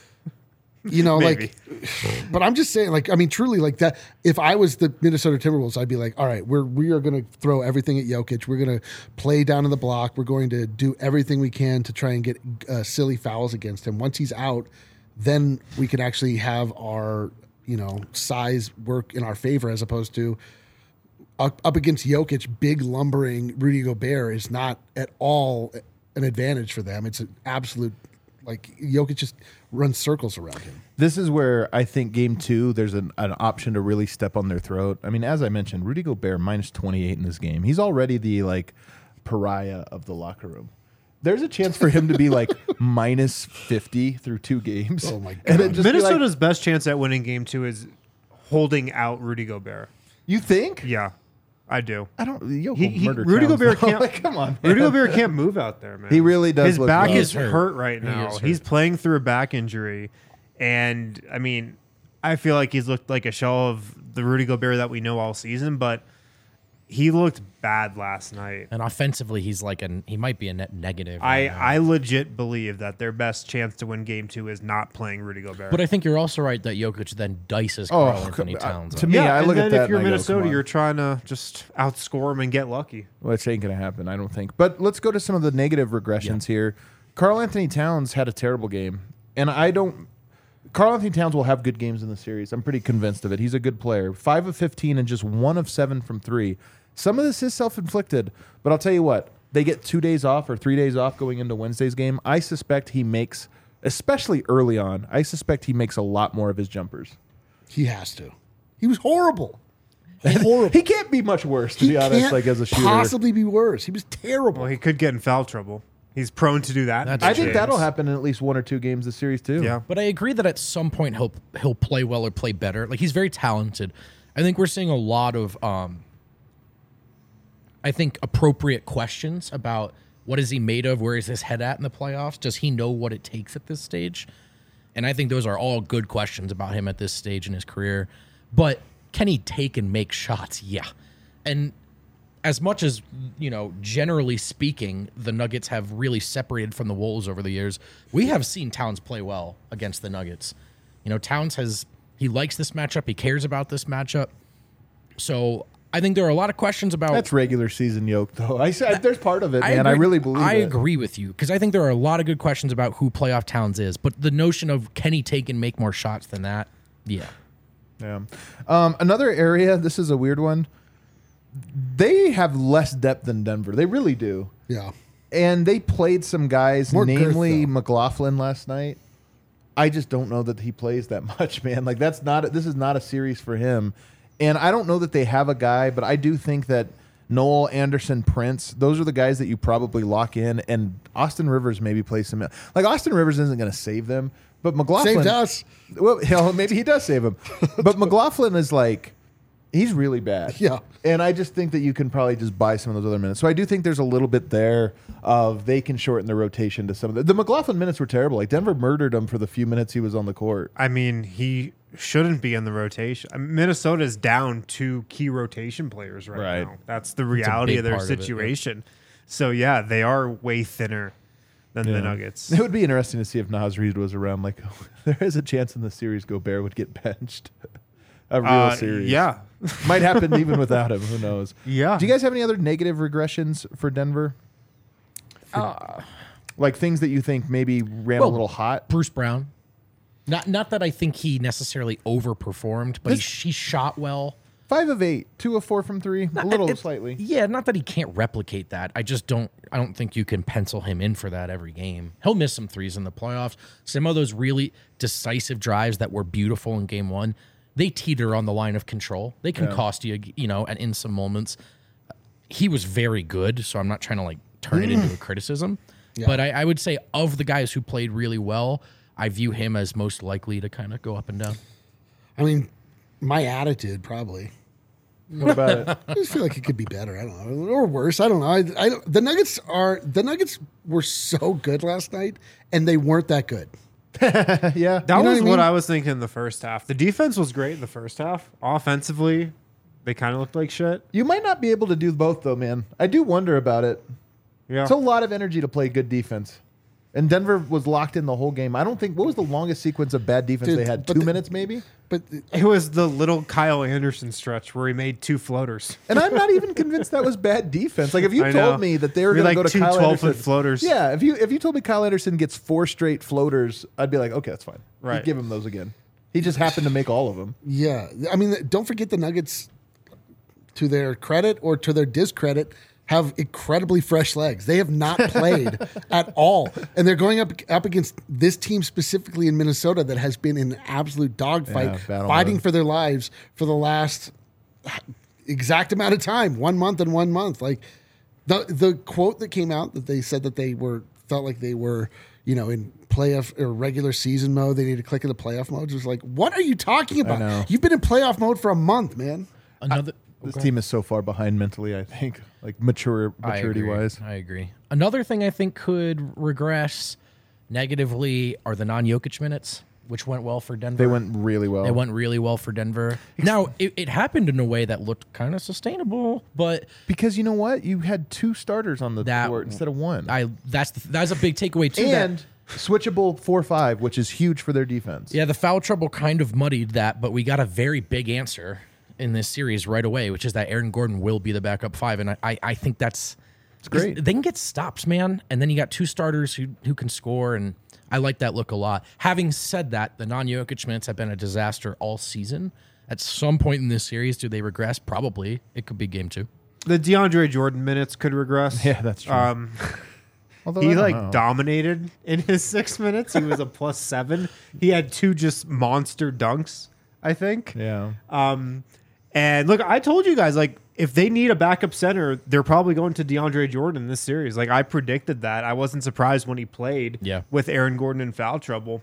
Maybe. but I'm just saying, like, I mean, truly, like that. If I was the Minnesota Timberwolves, I'd be like, all right, we are going to throw everything at Jokic. We're going to play down in the block. We're going to do everything we can to try and get silly fouls against him. Once he's out, then we can actually have our, size work in our favor, as opposed to up against Jokic, big lumbering Rudy Gobert is not at all an advantage for them. It's an absolute, like, Jokic just runs circles around him. This is where I think game 2, there's an option to really step on their throat. I mean, as I mentioned, Rudy Gobert minus 28 in this game. He's already the pariah of the locker room. There's a chance for him to be like minus 50 through 2 games. Oh my God. And just be like, Minnesota's best chance at winning game 2 is holding out Rudy Gobert. you think? Yeah, I do. I don't. Yo, Rudy Gobert can't. Like, come on, Rudy man. Gobert can't move out there, man. He really does His look back rough. is He is hurt hurt. right He now. is He's hurt. playing through a back injury, and I mean, I feel like he's looked like a shell of the Rudy Gobert that we know all season, but he looked bad last night. And offensively, he's like he might be a net negative. right now. I legit believe that their best chance to win game 2 is not playing Rudy Gobert. But I think you're also right that Jokic then dices Oh, Karl Anthony come- Towns. to up. me, I and look then at that if you're and I go, Minnesota, come on. you're trying to just outscore him and get lucky. Which ain't going to happen, I don't think. But let's go to some of the negative regressions here. Karl Anthony Towns had a terrible game. And Karl Anthony Towns will have good games in the series. I'm pretty convinced of it. He's a good player. 5 of 15 and just 1 of 7 from 3. Some of this is self-inflicted, but I'll tell you what. They get 2 days off or 3 days off going into Wednesday's game. I suspect he makes, especially early on, I suspect he makes a lot more of his jumpers. He has to. He was horrible. Horrible. He can't be much worse, to be honest, can't like as a shooter. possibly be worse. He was terrible. Well, he could get in foul trouble. He's prone to do that. That's I think James. that'll happen in at least 1 or 2 games this series, too. Yeah. But I agree that at some point he'll play well or play better. Like, he's very talented. I think we're seeing a lot of I think appropriate questions about what is he made of, where is his head at in the playoffs? Does he know what it takes at this stage? And I think those are all good questions about him at this stage in his career. But can he take and make shots? Yeah. And as much as, generally speaking, the Nuggets have really separated from the Wolves over the years, we have seen Towns play well against the Nuggets. Towns he likes this matchup. He cares about this matchup. So I think there are a lot of questions about... That's regular season yoke, though. There's part of it, man. I agree- really believe I it. agree with you, because I think there are a lot of good questions about who playoff Towns is. But the notion of can he take and make more shots than that? Yeah. Yeah. Another area, this is a weird one. They have less depth than Denver. They really do. Yeah. And they played some guys, More girth, namely though. McLaughlin last night. I just don't know that he plays that much, man. Like this is not a series for him. And I don't know that they have a guy, but I do think that Noel, Anderson, Prince, those are the guys that you probably lock in. And Austin Rivers maybe plays some. Like Austin Rivers isn't going to save them, but McLaughlin Saved us. Well, maybe he does save him, but McLaughlin is like He's really bad. Yeah. And I just think that you can probably just buy some of those other minutes. So I do think there's a little bit there of they can shorten the rotation to some of the McLaughlin minutes were terrible. Like Denver murdered him for the few minutes he was on the court. I mean, he shouldn't be in the rotation. Minnesota's down 2 key rotation players Right. now. That's the reality big of their part of it, yeah. situation. So yeah, they are way thinner than the Nuggets. It would be interesting to see if Naz Reid was around. Like, there is a chance in the series Gobert would get benched. A real series. Yeah. Might happen even without him. Who knows? Yeah. Do you guys have any other negative regressions for Denver? Like things that you think maybe ran a little hot? Bruce Brown. Not that I think he necessarily overperformed, but he shot well. 5 of 8, 2 of 4 from 3, a little slightly. Yeah, not that he can't replicate that. I don't think you can pencil him in for that every game. He'll miss some threes in the playoffs. Some of those really decisive drives that were beautiful in game 1, they teeter on the line of control. They can cost you, and in some moments. He was very good, so I'm not trying to like turn it into a criticism. Yeah. But I would say of the guys who played really well, I view him as most likely to kind of go up and down. I mean, my attitude probably. What about it? I just feel like it could be better. I don't know, or worse. I don't know. The Nuggets were so good last night, and they weren't that good. Yeah. That was what I mean? what I was thinking in the first half. The defense was great in the first half. Offensively, they kind of looked like shit. You might not be able to do both, though, man. I do wonder about it. Yeah. It's a lot of energy to play good defense. And Denver was locked in the whole game. I don't think, what was the longest sequence of bad defense Dude, they had? but 2 minutes, maybe? But It was the little Kyle Anderson stretch where he made 2 floaters. And I'm not even convinced that was bad defense. Like, if you I told know. me that they were Be going to like go to 2 Kyle 12-foot Anderson. floaters. Yeah, if you told me Kyle Anderson gets 4 straight floaters, I'd be like, okay, that's fine. Right. You'd give him those again. He just happened to make all of them. yeah, I mean, don't forget the Nuggets, to their credit or to their discredit, have incredibly fresh legs. They have not played at all. And they're going up against this team specifically in Minnesota that has been in an absolute dogfight, Yeah, battle fighting mode. for their lives for the last exact amount of time, 1 month and 1 month. Like the quote that came out that they said that they felt like they were, in playoff or regular season mode, they need to click into playoff mode. It was like, what are you talking know. about? You've been in playoff mode for a month, man. This team is so far behind mentally, I think, like maturity-wise. I agree. Another thing I think could regress negatively are the non-Jokic minutes, which went well for Denver. They went really well. They went really well for Denver. Now, it happened in a way that looked kind of sustainable, but Because you know what? You had 2 starters on the court instead of 1. that's a big takeaway too. And switchable 4-5, which is huge for their defense. Yeah, the foul trouble kind of muddied that, but we got a very big answer in this series right away, which is that Aaron Gordon will be the backup 5, and I think it's great. They can get stops, man, and then you got 2 starters who can score, and I like that look a lot. Having said that, the non-Jokic minutes have been a disaster all season. At some point in this series, do they regress? Probably. It could be game 2. The DeAndre Jordan minutes could regress. Yeah, that's true. Although He I don't know. dominated in his 6 minutes. He was a +7. He had 2 just monster dunks, I think. Yeah. And look, I told you guys, like, if they need a backup center, they're probably going to DeAndre Jordan in this series. Like, I predicted that. I wasn't surprised when he played with Aaron Gordon in foul trouble.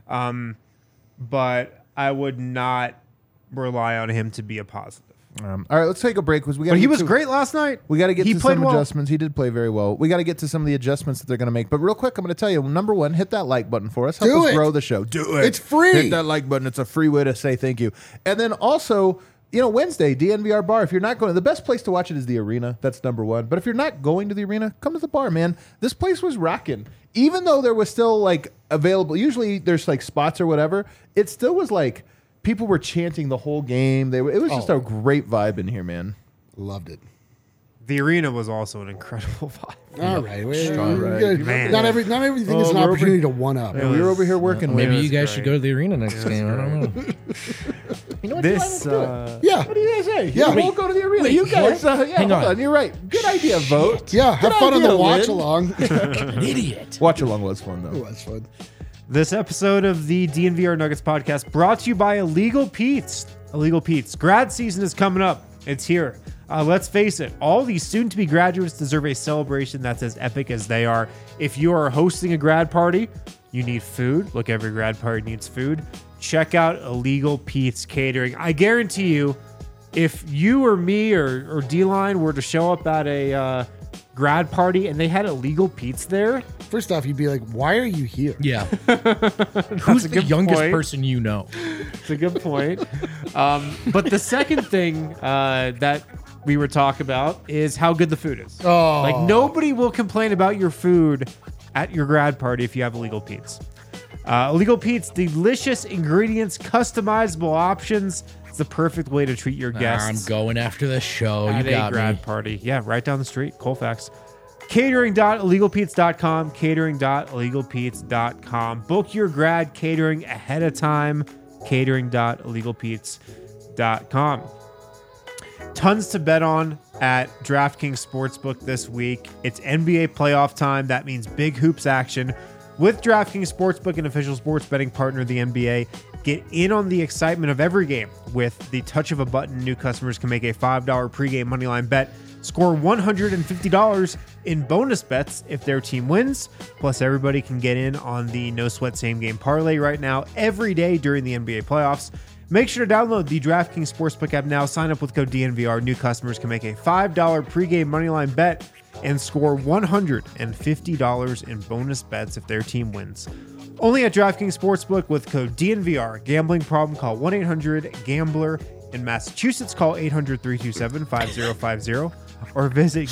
But I would not rely on him to be a positive. All right, let's take a break because we got. But he was great last night. We got to get He to played some well. adjustments. He did play very well. We got to get to some of the adjustments that they're going to make. But real quick, I'm going to tell you, number 1, hit that like button for us. Help Do us it. grow the show. Do it. It's free. Hit that like button. It's a free way to say thank you. And then also, Wednesday, DNVR bar. If you're not going, the best place to watch it is the arena. That's number 1. But if you're not going to the arena, come to the bar, man. This place was rocking. Even though there was still like available, usually there's like spots or whatever, it still was like people were chanting the whole game. It was just a great vibe in here, man. Loved it. The arena was also an incredible vibe. All right. Man. Not everything is an we're over- opportunity to one up. Yeah, we were over here working. Maybe man. you guys great. should go to the arena next game. I don't know. You know what? This, Yeah. What do you guys say? Yeah. We'll go to the arena. Wait, You guys, what? yeah, Hang hold on. on. You're right. Good idea, vote. Yeah. Have Good fun on idea, the watch Lynn. along. An idiot. Watch along was fun though. That's fun. This episode of the DNVR Nuggets podcast brought to you by Illegal Pete's. Illegal Pete's. Grad season is coming up. It's here. Let's face it, all these soon-to-be graduates deserve a celebration that's as epic as they are. If you are hosting a grad party, you need food. Look, every grad party needs food. Check out Illegal Pete's Catering. I guarantee you, if you or me or D-Line were to show up at a grad party and they had illegal Pete's there, First off, you'd be like, why are you here? Yeah. Who's the good youngest point. person you know? it's a good point. But the second thing that we were talking about is how good the food is. Oh. Like, nobody will complain about your food at your grad party if you have illegal Pete's. Illegal Pete's, delicious ingredients, customizable options. It's the perfect way to treat your I'm guests going after the show. at You a got grad me. party. Yeah, right down the street, Colfax. Catering.illegalpete's.com, catering.illegalpete's.com. Book your grad catering ahead of time, catering.illegalpete's.com. Tons to bet on at DraftKings Sportsbook this week. It's NBA playoff time. That means big hoops action. With DraftKings Sportsbook, an official sports betting partner of the NBA, get in on the excitement of every game. With the touch of a button, new customers can make a $5 pregame moneyline bet, score $150 in bonus bets if their team wins. Plus, everybody can get in on the no sweat same game parlay right now every day during the NBA playoffs. Make sure to download the DraftKings Sportsbook app now. Sign up with code DNVR. New customers can make a $5 pregame moneyline bet and score $150 in bonus bets if their team wins. Only at DraftKings Sportsbook with code DNVR. Gambling problem? Call 1-800-GAMBLER. In Massachusetts, call 800-327-5050 or visit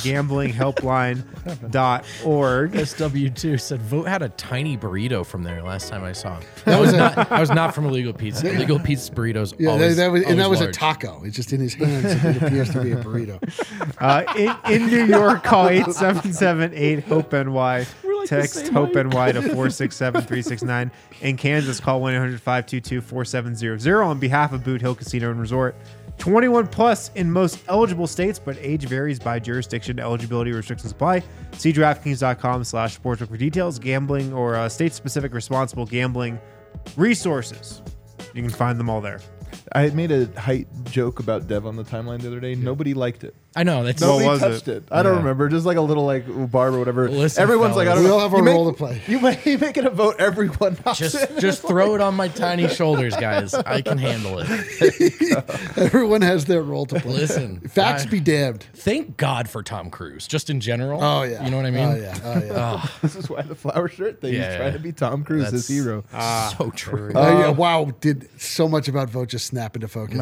gamblinghelpline.org. SW2 said Vote had a tiny burrito from there last time I saw him. That was not from Illegal Pete's. Illegal Pete's burritos. Yeah, always, that was a large. taco. It's just in his hands. It appears to be a burrito. In New York, call 877-8-HOPE-NY. Text HOPE-NY to 467-369. In Kansas, call 1-800-522-4700. On behalf of Boot Hill Casino and Resort, 21 plus in most eligible states, but age varies by jurisdiction. Eligibility restrictions apply. See DraftKings.com/sportsbook for details. Gambling or state-specific responsible gambling resources. You can find them all there. I made a height joke about Dev on the timeline the other day. Nobody liked it. I know. That's What Nobody was touched it? it. I don't Yeah. remember. Just like a little like barb or whatever. Listen, Everyone's like, I don't fellas. know. We all have a You role to play. You make it a vote. Everyone hops in. just throw it on my tiny shoulders, guys. I can handle it. Everyone has their role to play. Listen, Facts I- be damned. Thank God for Tom Cruise, just in general. Oh, yeah. You know what I mean? Oh, yeah. Oh, yeah. This is why the flower shirt thing. Yeah. He's trying to be Tom Cruise, his That's- hero. So true. Oh, yeah. Wow. Did so much about Vote just snap into focus.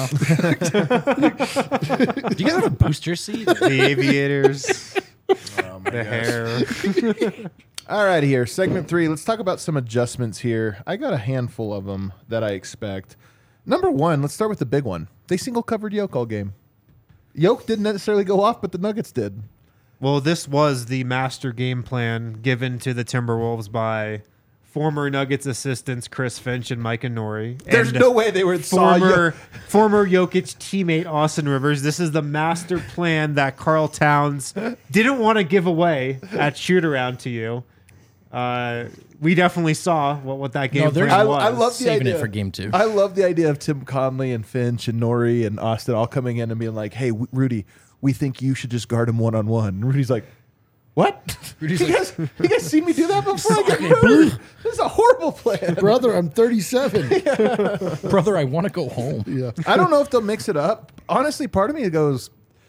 Do you guys have a booster seat? The aviators, the hair. All right, here, segment 3. Let's talk about some adjustments here. I got a handful of them that I expect. Number 1, let's start with the big one. They single covered Yoke all game. Yoke didn't necessarily go off, but the Nuggets did. Well, this was the master game plan given to the Timberwolves by former Nuggets assistants Chris Finch and Mike Nori. There's and no way they were saw former Jokic teammate Austin Rivers. This is the master plan that Karl Towns didn't want to give away at shoot around to you. We definitely saw what that game there's- plan I was. love the Saving idea it for game 2. I love the idea of Tim Conley and Finch and Nori and Austin all coming in and being like, "Hey, Rudy, we think you should just guard him one-on-one." And Rudy's like, "What? Rudy's you, like- guys seen me do that before? I get Okay, murdered. This is a horrible plan." Brother, I'm 37. Brother, I want to go home. Yeah. I don't know if they'll mix it up. Honestly, part of me goes,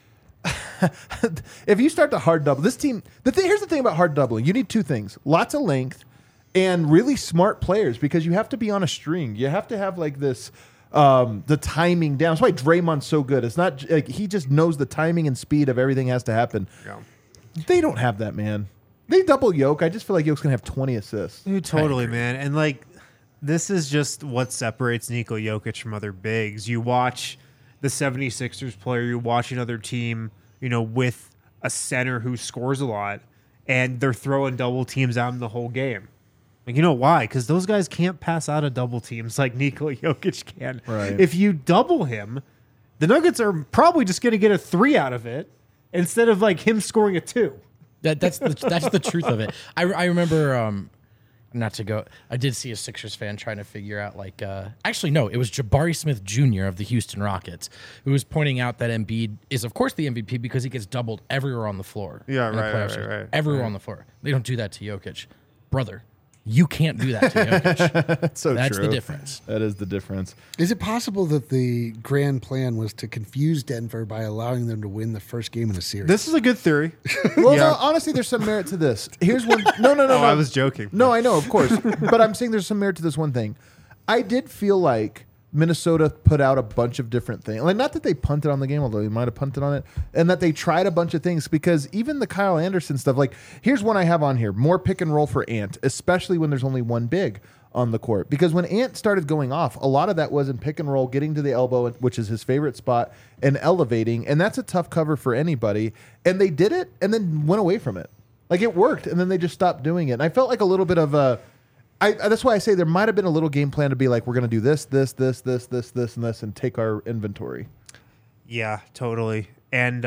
if you start to hard double this team, here's the thing about hard doubling: you need two things: lots of length and really smart players, because you have to be on a string. You have to have like this. The timing down. That's why Draymond's so good. It's not like he just knows the timing and speed of everything has to happen. Yeah. They don't have that, man. They double Yoke. I just feel like Yoke's gonna have 20 assists. Dude, totally, man. And like, this is just what separates Nikola Jokic from other bigs. You watch the 76ers player, you watch another team, with a center who scores a lot, and they're throwing double teams at him the whole game. Like, you know why? Because those guys can't pass out of double teams like Nikola Jokic can. Right. If you double him, the Nuggets are probably just going to get a 3 out of it instead of like him scoring a 2. That's the truth of it. I remember not to go. I did see a Sixers fan trying to figure out actually no, it was Jabari Smith Jr. of the Houston Rockets who was pointing out that Embiid is of course the MVP because he gets doubled everywhere on the floor. Yeah, in the right, playoff right, series. right. Everywhere on the floor. They don't do that to Jokic, brother. You can't do that to Jokic. That's so That's true. the difference. That is the difference. Is it possible that the grand plan was to confuse Denver by allowing them to win the first game in the series? This is a good theory. Well, Yeah. no, honestly, there's some merit to this. Here's one. No. Oh, I was joking. No, I know, of course. But I'm saying there's some merit to this one thing. I did feel like Minnesota put out a bunch of different things. Like, not that they punted on the game, although they might have punted on it, and that they tried a bunch of things, because even the Kyle Anderson stuff, like, here's one I have on here. More pick and roll for Ant, especially when there's only one big on the court. Because when Ant started going off, a lot of that was in pick and roll, getting to the elbow, which is his favorite spot, and elevating. And that's a tough cover for anybody. And they did it and then went away from it. Like, it worked, and then they just stopped doing it. And I felt like a little bit of a... that's why I say there might have been a little game plan to be like, we're going to do this, and this, and take our inventory. Yeah, totally. And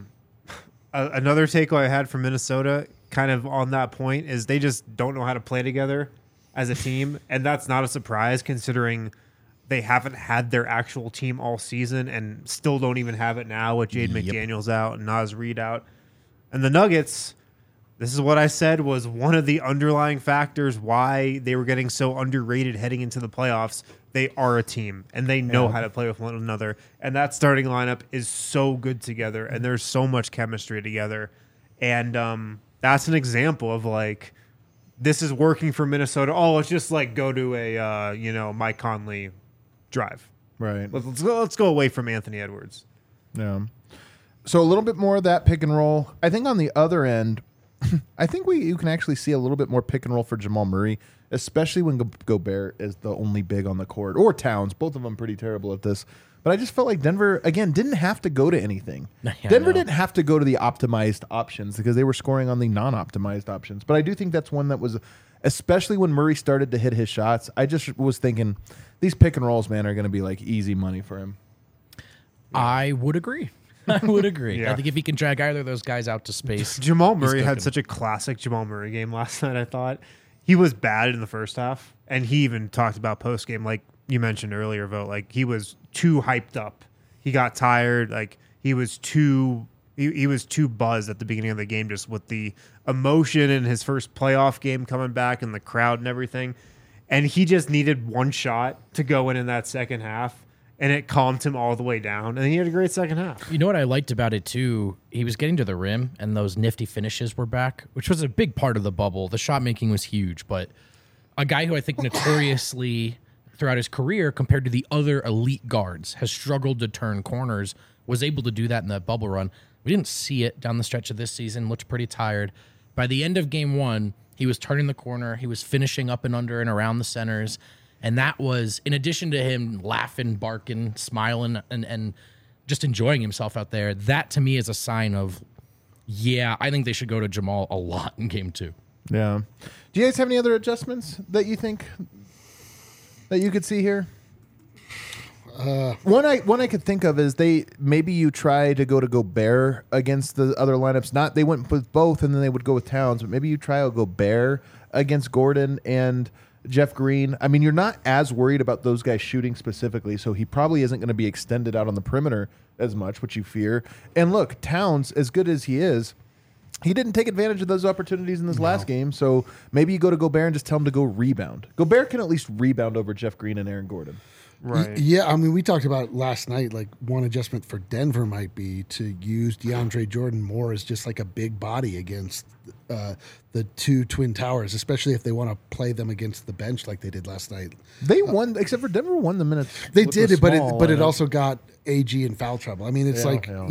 another takeaway I had from Minnesota, kind of on that point, is they just don't know how to play together as a team, and that's not a surprise considering they haven't had their actual team all season and still don't even have it now with Jade McDaniels out and Naz Reid out. And the Nuggets, this is what I said was one of the underlying factors why they were getting so underrated heading into the playoffs. They are a team, and they know how to play with one another. And that starting lineup is so good together, and there's so much chemistry together. And that's an example of, like, this is working for Minnesota. Oh, let's just, like, go to a, Mike Conley drive. Right. Let's go away from Anthony Edwards. Yeah. So a little bit more of that pick and roll. I think on the other end, I think you can actually see a little bit more pick and roll for Jamal Murray, especially when Gobert is the only big on the court, or Towns. Both of them pretty terrible at this. But I just felt like Denver, again, didn't have to go to anything. Denver didn't have to go to the optimized options because they were scoring on the non-optimized options. But I do think that's one that was, especially when Murray started to hit his shots, I just was thinking these pick and rolls, man, are going to be like easy money for him. I would agree. I would agree. Yeah. I think if he can drag either of those guys out to space, Jamal Murray he's had cooking. such a classic Jamal Murray game last night, I thought. He was bad in the first half, and he even talked about post-game, like you mentioned earlier, Vogt. Like, he was too hyped up. He got tired. Like, he was too buzzed at the beginning of the game, just with the emotion in his first playoff game coming back and the crowd and everything. And he just needed one shot to go in that second half, and it calmed him all the way down. And he had a great second half. You know what I liked about it too? He was getting to the rim, and those nifty finishes were back, which was a big part of the bubble. The shot making was huge, but a guy who I think notoriously throughout his career, compared to the other elite guards, has struggled to turn corners, was able to do that in that bubble run. We didn't see it down the stretch of this season. Looked pretty tired. By the end of game one, he was turning the corner. He was finishing up and under and around the centers. And that was, in addition to him laughing, barking, smiling, and just enjoying himself out there, that to me is a sign of, yeah, I think they should go to Jamal a lot in game two. Yeah. Do you guys have any other adjustments that you think that you could see here? One I could think of is maybe you try to go to Gobert against the other lineups. Not they went with both and then they would go with Towns, but maybe you try a Gobert against Gordon and Jeff Green. I mean, you're not as worried about those guys shooting specifically, so he probably isn't going to be extended out on the perimeter as much, which you fear. And look, Towns, as good as he is, he didn't take advantage of those opportunities in this last game, so maybe you go to Gobert and just tell him to go rebound. Gobert can at least rebound over Jeff Green and Aaron Gordon. Right. Yeah, I mean, we talked about last night, like one adjustment for Denver might be to use DeAndre Jordan more as just like a big body against the two Twin Towers, especially if they want to play them against the bench like they did last night. They won, except for Denver won the minutes. They with did the it, but small it lineup. also got AG in foul trouble. I mean, it's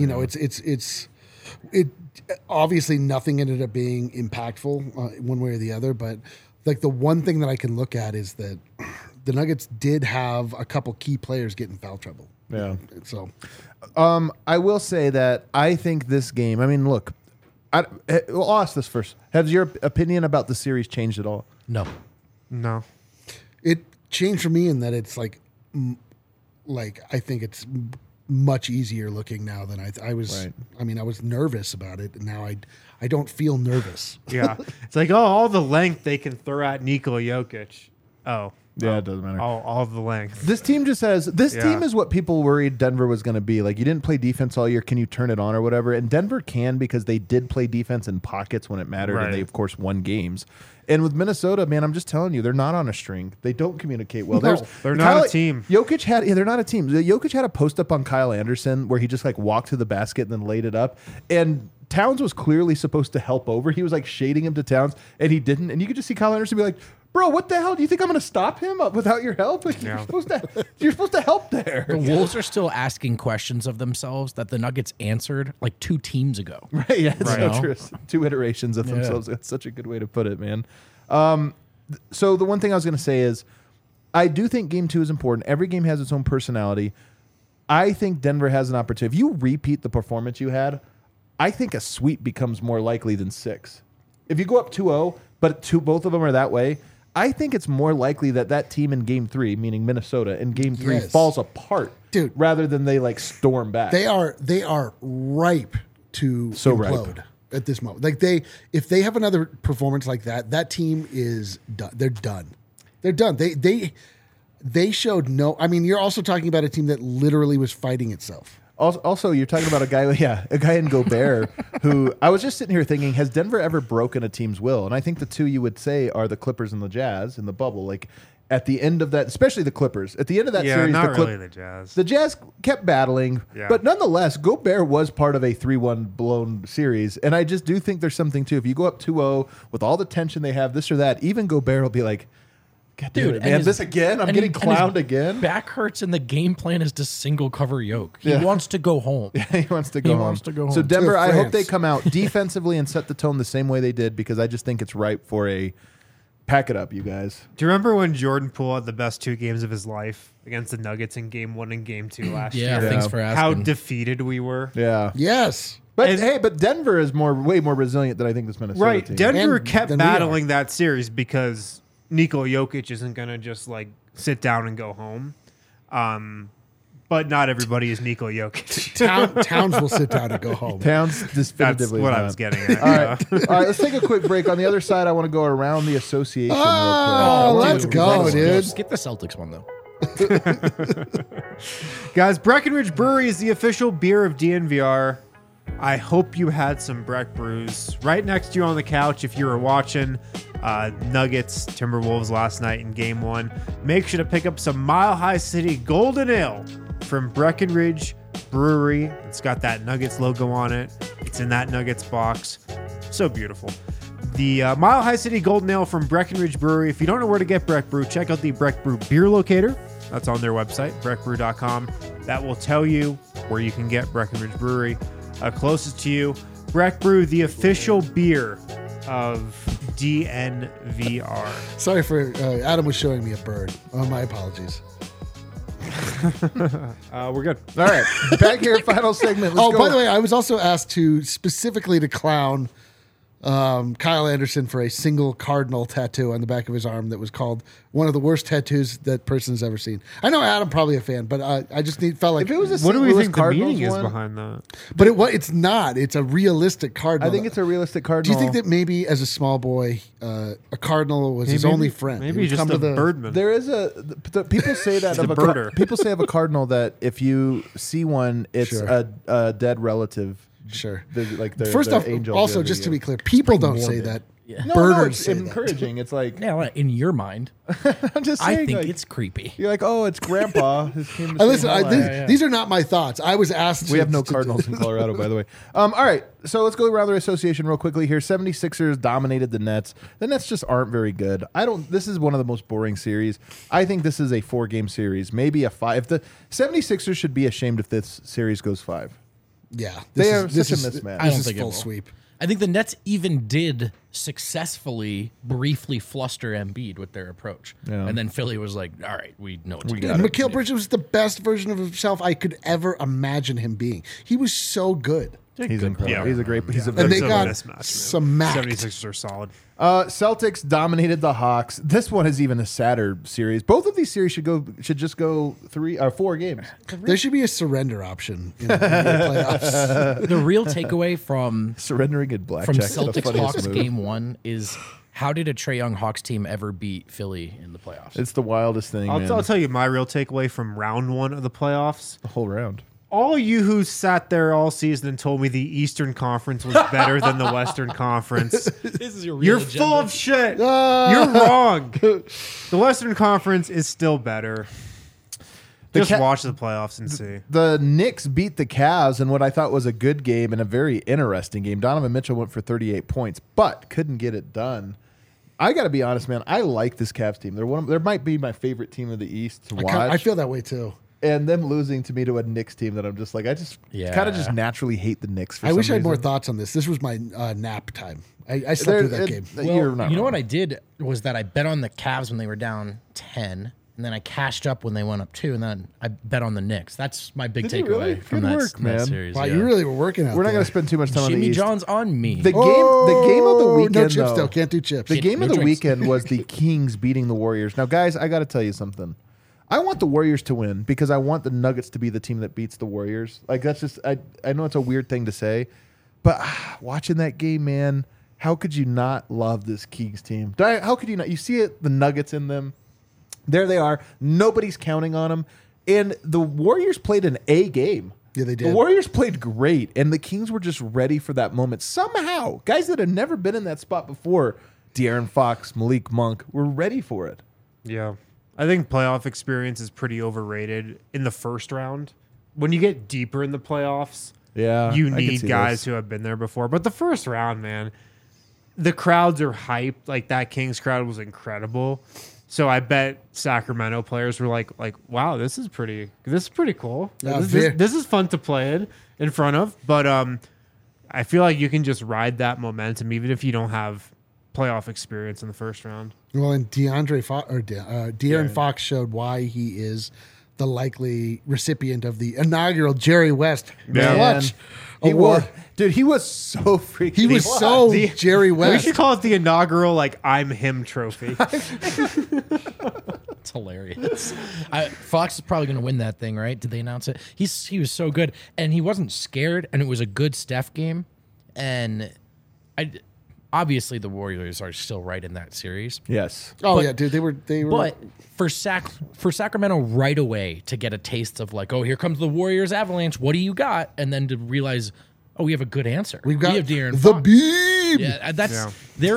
it obviously nothing ended up being impactful one way or the other, but like the one thing that I can look at is that the Nuggets did have a couple key players get in foul trouble. Yeah. So I will say that I think this game, I mean, look, I'll ask this first. Has your opinion about the series changed at all? No. No. it changed for me in that it's like I think it's much easier looking now than I was. Right. I mean, I was nervous about it, and now I don't feel nervous. Yeah. It's like, oh, all the length they can throw at Nikola Jokic. Oh, Yeah, it doesn't matter. All of the length. This team just has this Yeah. team is what people worried Denver was going to be. Like, you didn't play defense all year. Can you turn it on or whatever? And Denver can, because they did play defense in pockets when it mattered, Right. and they of course won games. And with Minnesota, man, I'm just telling you, they're not on a string. They don't communicate well. No, they're not a team. Jokic had they're not a team. Jokic had a post up on Kyle Anderson where he just like walked to the basket and then laid it up. And Towns was clearly supposed to help over. He was like shading him to Towns, and he didn't. And you could just see Kyle Anderson be like, "Bro, what the hell? Do you think I'm going to stop him without your help? Like, Yeah. you're supposed to help there." The Wolves are still asking questions of themselves that the Nuggets answered like 2 teams ago. Right, yeah, it's Right. so true. 2 iterations of Yeah. themselves. That's such a good way to put it, man. So the one thing I was going to say is, I do think Game 2 is important. Every game has its own personality. I think Denver has an opportunity. If you repeat the performance you had, I think a sweep becomes more likely than 6. If you go up 2-0, but both of them are that way, I think it's more likely that team in Game 3, meaning Minnesota, in Game 3 Yes. falls apart, Dude. rather than they like storm back. They are ripe to So ripe. implode at this moment. Like if they have another performance like that, that team is done. They're done. They're done. They showed no. I mean, you're also talking about a team that literally was fighting itself. Also, you're talking about a guy in Gobert who I was just sitting here thinking, has Denver ever broken a team's will? And I think the two you would say are the Clippers and the Jazz in the bubble. Like at the end of that, especially the Clippers, at the end of that Yeah, series, not the really the Jazz. The Jazz kept battling, Yeah. but nonetheless, Gobert was part of a 3-1 blown series. And I just do think there's something too. If you go up 2-0 with all the tension they have, this or that, even Gobert will be like, God, Dude, dude, and man, his- this again? I'm and getting he- and his clowned again? Back hurts, and the game plan is to single cover Yoke. He Yeah. wants to go home. He wants to go He home. wants to go So home. Denver, To I hope they France. come out defensively and set the tone the same way they did, because I just think it's ripe for a pack it up, you guys. Do you remember when Jordan Poole had the best 2 games of his life against the Nuggets in Game 1 and Game 2 last Yeah, year? thanks for How asking. defeated we were. Yeah. Yes. But And- hey, but Denver is way more resilient than I think this Minnesota Right. team. Denver And kept than we are. battling that series because Nikola Jokic isn't going to just like sit down and go home. But not everybody is Nikola Jokic. Towns will sit down and go home. Towns That's definitively what not. I was getting at. All right. All right, let's take a quick break. On the other side, I want to go around the association Oh, real quick. let's go, dude. Skip the Celtics one though. Guys, Breckenridge Brewery is the official beer of DNVR. I hope you had some Breck brews right next to you on the couch if you were watching Nuggets Timberwolves last night in Game 1. Make sure to pick up some Mile High City Golden Ale from Breckenridge Brewery. It's got that Nuggets logo on it. It's in that Nuggets box. So beautiful. The Mile High City Golden Ale from Breckenridge Brewery. If you don't know where to get Breck Brew, check out the Breck Brew Beer Locator. That's on their website, breckbrew.com. That will tell you where you can get Breckenridge Brewery closest to you. Breck Brew, the official beer of DNVR. Sorry for Adam was showing me a bird. Oh, my apologies. We're good. All right, back here, final segment. Let's Oh, go. by the way, I was also asked to specifically to clown Kyle Anderson for a single cardinal tattoo on the back of his arm that was called one of the worst tattoos that person has ever seen. I know Adam probably a fan, but I just felt like If it was a What do St. we Louis think the Cardinals meaning is one, behind that? but it's not. It's a realistic cardinal. I think it's a realistic Do cardinal. you think that maybe as a small boy, a cardinal was his only friend? He Maybe would just come a to the birdman. There is people say that He's of a a birder. people say of a cardinal that if you see one, it's Sure. a dead relative. Sure. Like their, First their off, angel also giving just to you. be clear, people don't say morbid. that. Yeah. No, Birders it's say that. encouraging. It's like Yeah, in your mind, I'm just I saying. think like, it's creepy. you're like, oh, it's Grandpa. Who came to Listen, say hi. these are not my thoughts. I was asked. We have no to- Cardinals in Colorado, by the way. All right, so let's go around the association real quickly here. 76ers dominated the Nets. The Nets just aren't very good. This is one of the most boring series. I think this is a 4-game series, maybe a 5. The 76ers should be ashamed if this series goes 5. Yeah, They are such a mismatch. I don't This is think it full will. sweep. I think the Nets even did successfully briefly fluster Embiid with their approach. Yeah. And then Philly was like, all right, we know what to do. got it. Mikal Bridges was the best version of himself I could ever imagine him being. He was so good. He's incredible. Yeah. He's a great. He's a And very they It's a got mismatch, man. smacked. 76ers are solid. Celtics dominated the Hawks. This one is even a sadder series. Both of these series should just go 3 or 4 games. There should be a surrender option in the playoffs. The real takeaway from Surrendering at blackjack. is the Celtics funniest Hawks move. game 1 is How did a Trae Young Hawks team ever beat Philly in the playoffs? It's the wildest thing, man. I'll tell you my real takeaway from round 1 of the playoffs. The whole round. All you who sat there all season and told me the Eastern Conference was better than the Western Conference, This is your you're full of shit. You're wrong. The Western Conference is still better. Just watch the playoffs and see. The Knicks beat the Cavs in what I thought was a good game and a very interesting game. Donovan Mitchell went for 38 points, but couldn't get it done. I got to be honest, man. I like this Cavs team. They might be my favorite team of the East to watch. I feel that way too. And them losing to me to a Knicks team that I'm just like, I just kind of just naturally hate the Knicks. I wish I had more thoughts on this. This was my nap time. I slept through that game. Well, you know what I did was that I bet on the Cavs when they were down 10, and then I cashed up when they went up 2, and then I bet on the Knicks. That's my big Did you takeaway really? from Good that, work, that man. series. Wow, yeah. you really were working out We're not there. going to spend too much time on the Jimmy East. John's on me. The game of the weekend, No chips though, though. Can't do chips. The game No of the drinks. weekend was the Kings beating the Warriors. Now, guys, I got to tell you something. I want the Warriors to win because I want the Nuggets to be the team that beats the Warriors. Like, that's just, I know it's a weird thing to say, but watching that game, man, how could you not love this Kings team? How could you not? You see it, the Nuggets in them. There they are. Nobody's counting on them. And the Warriors played an A game. Yeah, they did. The Warriors played great, and the Kings were just ready for that moment. Somehow, guys that had never been in that spot before, De'Aaron Fox, Malik Monk, were ready for it. Yeah. I think playoff experience is pretty overrated in the first round. When you get deeper in the playoffs, Yeah, you I can need see guys this. who have been there before. But the first round, man, the crowds are hyped. Like that Kings crowd was incredible. So I bet Sacramento players were like, wow, this is pretty cool. Yeah, This is fun to play in front of. But I feel like you can just ride that momentum even if you don't have playoff experience in the first round. Well, and De'Aaron Fox showed why he is the likely recipient of the inaugural Jerry West Clutch He Award. was, dude, he was so freaking. He was so Jerry We West. should call it the inaugural I'm him trophy. It's hilarious. Fox is probably going to win that thing, right? Did they announce it? He was so good, and he wasn't scared, and it was a good Steph game. And obviously the Warriors are still right in that series. Yes. Oh But- yeah, dude, they were. But for Sacramento right away to get a taste of like, oh, here comes the Warriors avalanche. What do you got? And then to realize, oh, we have a good answer. We've got we have De'Aaron the Fox. beam. Yeah, that's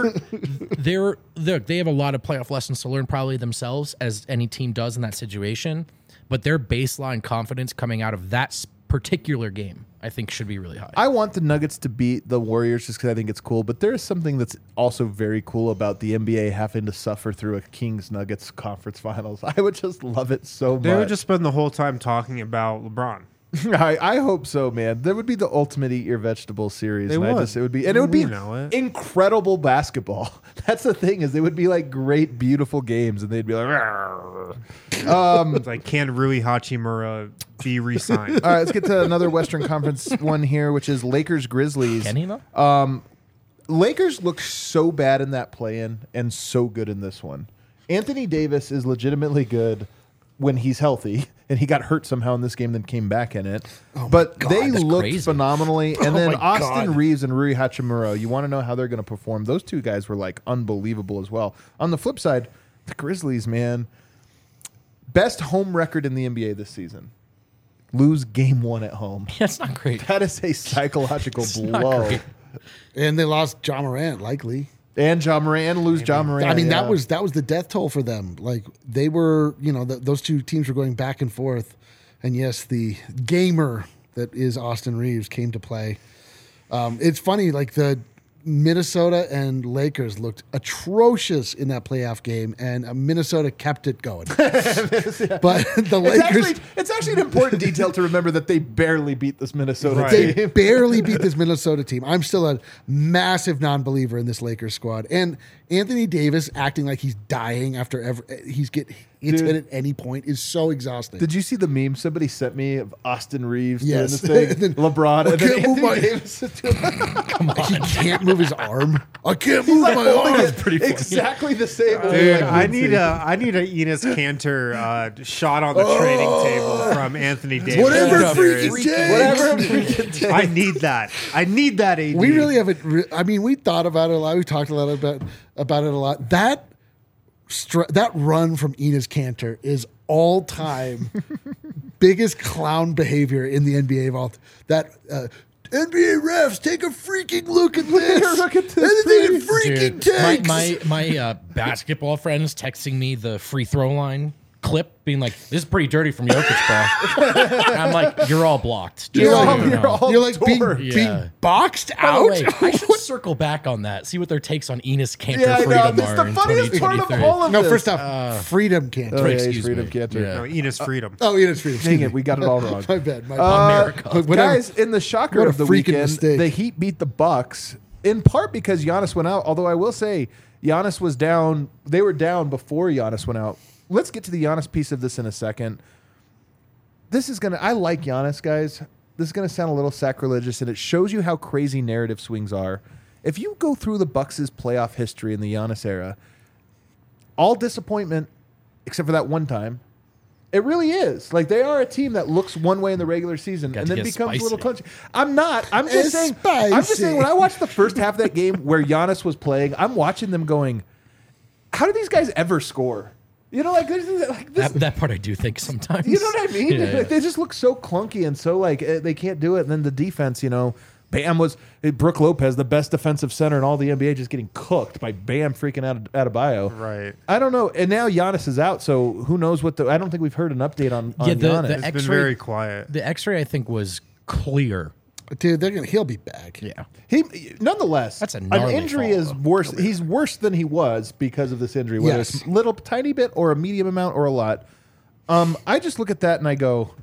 they have a lot of playoff lessons to learn probably themselves, as any team does in that situation. But their baseline confidence coming out of that particular game, I think, should be really high. I want the Nuggets to beat the Warriors just because I think it's cool. But there is something that's also very cool about the NBA having to suffer through a Kings Nuggets conference finals. I would just love it so much. They would just spend the whole time talking about LeBron. I hope so, man. That would be the ultimate eat your vegetable series. They and would. it would be, and it would be We know it. incredible basketball. That's the thing, is they would be like great, beautiful games, and they'd be like, "Rawr." It's like, can Rui Hachimura be re-signed? All right, let's get to another Western Conference one here, which is Lakers Grizzlies. Can he though? Lakers look so bad in that play-in and so good in this one. Anthony Davis is legitimately good when he's healthy, and he got hurt somehow in this game, then came back in it. But they that's looked crazy. phenomenally. And then my Austin God. Reeves and Rui Hachimura, you want to know how they're going to perform. Those two guys were like unbelievable as well. On the flip side, the Grizzlies, man, best home record in the NBA this season. Lose game 1 at home. That's not great. That is a psychological not blow. great. And they lost John Morant, likely. And John Morant, and lose John Morant. I mean, yeah. that was the death toll for them. Like they were, those two teams were going back and forth, and yes, the gamer that is Austin Reeves came to play. It's funny, like the Minnesota and Lakers looked atrocious in that playoff game, and Minnesota kept it going. But the Lakers. It's actually an important detail to remember that they barely beat this Minnesota Right. team. Barely beat this Minnesota team. I'm still a massive non-believer in this Lakers squad. And Anthony Davis acting like he's dying after It's Dude. hit at any point is so exhausting. Did you see the meme somebody sent me of Austin Reeves Yes. doing this And thing? then, LeBron. I And then can't move Anthony my- Davis doing He can't move his arm. I can't move my holding arm. it exactly the same way. Dude, like I Lindsay. need a Enos Cantor shot on the training table from Anthony Davis. Whatever Yeah. freaking takes. Whatever freaking takes. I need that. I need that. AD. We really haven't. I mean, we thought about it a lot. We talked a lot about it a lot. That run from Enos Cantor is all time biggest clown behavior in the NBA of all. That NBA refs take a freaking look at this. Look at this, Anything it please. freaking Dude, takes. my basketball friends texting me the free throw line clip, being like, "This is pretty dirty from Jokic, bro." And I'm like, "You're all blocked." Just You're so all- you know. you're all- You're like being, Tour. Yeah. being boxed By the out. way, I should circle back on that. See what their takes on Enos Cantor Yeah, I know. freedom This is are the in funniest part of 2023. all of No, this. first off, Freedom Cantor. Oh, yeah, he's Excuse Freedom me. Cantor. Yeah. No, Enos Freedom. Oh, Enos Freedom. Dang it, we got it all wrong. My bad. My America. But whatever. Guys, in the shocker What a of the freaking weekend, mistake. the Heat beat the Bucks in part because Giannis went out. Although I will say Giannis was down. They were down before Giannis went out. Let's get to the Giannis piece of this in a second. This is gonna. I like Giannis, guys. This is gonna sound a little sacrilegious, and it shows you how crazy narrative swings are. If you go through the Bucks' playoff history in the Giannis era, all disappointment except for that one time. It really is. Like, they are a team that looks one way in the regular season Got and to then get becomes a little spicy. clunky. I'm not. I'm just It's saying. I'm just saying. spicy. When I watched the first half of that game where Giannis was playing, I'm watching them going, "How do these guys ever score?" You know, like this. That part I do think sometimes. You know what I mean? Yeah. Like, they just look so clunky and so like they can't do it. And then the defense, you know, Bam was Brooke Lopez, the best defensive center in all the NBA, just getting cooked by Bam freaking Adebayo. Right. I don't know. And now Giannis is out, so who knows what the? I don't think we've heard an update on Yeah, the Giannis. It's been X-ray- very quiet. The X-ray I think was clear. Dude, he'll be back. Yeah. He nonetheless. That's a an gnarly injury fall, is though. worse. He's worse than he was because of this injury, whether Yes. it's little tiny bit or a medium amount or a lot. I just look at that and I go,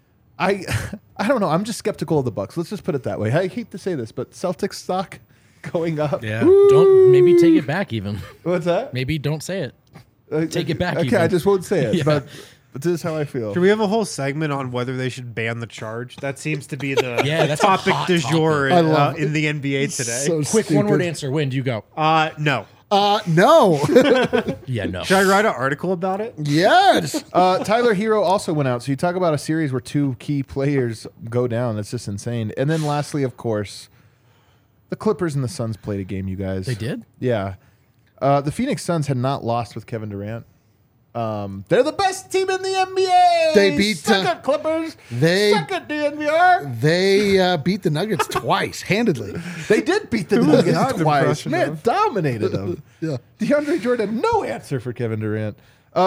I don't know. I'm just skeptical of the Bucks. Let's just put it that way. I hate to say this, but Celtics stock going up. Yeah. Don't maybe take it back even. What's that? Maybe don't say it. Take it back Okay, even. I just won't say it, Yeah. but this is how I feel. Do we have a whole segment on whether they should ban the charge? That seems to be the Yeah, that's a topic hot du jour I love in the NBA today. So Quick stupid. one-word answer. When do you go? No. No. Yeah, no. Should I write an article about it? Yes. Tyler Hero also went out. So you talk about a series where two key players go down. That's just insane. And then lastly, of course, the Clippers and the Suns played a game, you guys. They did? Yeah. The Phoenix Suns had not lost with Kevin Durant. They're the best team in the NBA. They beat, Suck it, Clippers. they- Suck it, DNVR. They beat the Nuggets twice, handedly. They did beat the Nuggets I'm twice. impressed Man, enough. dominated them. Yeah. DeAndre Jordan, no answer for Kevin Durant.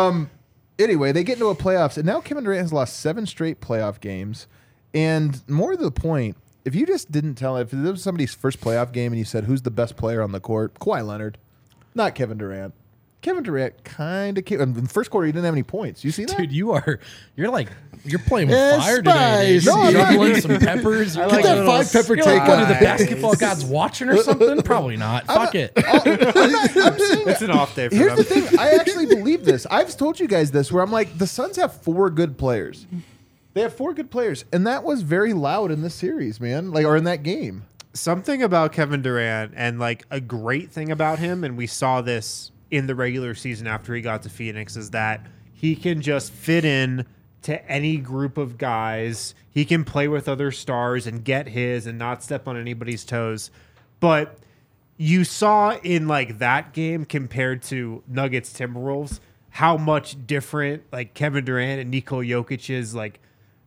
Anyway, they get into a playoffs, and now Kevin Durant has lost 7 straight playoff games. And more to the point, if you just didn't tell, if this was somebody's first playoff game and you said, who's the best player on the court? Kawhi Leonard, not Kevin Durant. Kevin Durant kind of came. In the first quarter, he didn't have any points. You see that? Dude, you're playing with It's fire today. Dude. spicy. No, I'm not. Juggling some peppers. Get Get that 5 pepper You're take like, what, are the on. basketball gods watching or something? Probably not. Fuck it. I'm saying It's an off day for Here's them. the thing. I actually believe this. I've told you guys this, where I'm like, the Suns have 4 good players. They have 4 good players, and that was very loud in this series, man. Like, or in that game. Something about Kevin Durant and like a great thing about him, and we saw this in the regular season after he got to Phoenix, is that he can just fit in to any group of guys. He can play with other stars and get his and not step on anybody's toes. But you saw in like that game compared to Nuggets Timberwolves how much different like Kevin Durant and Nikola Jokic's like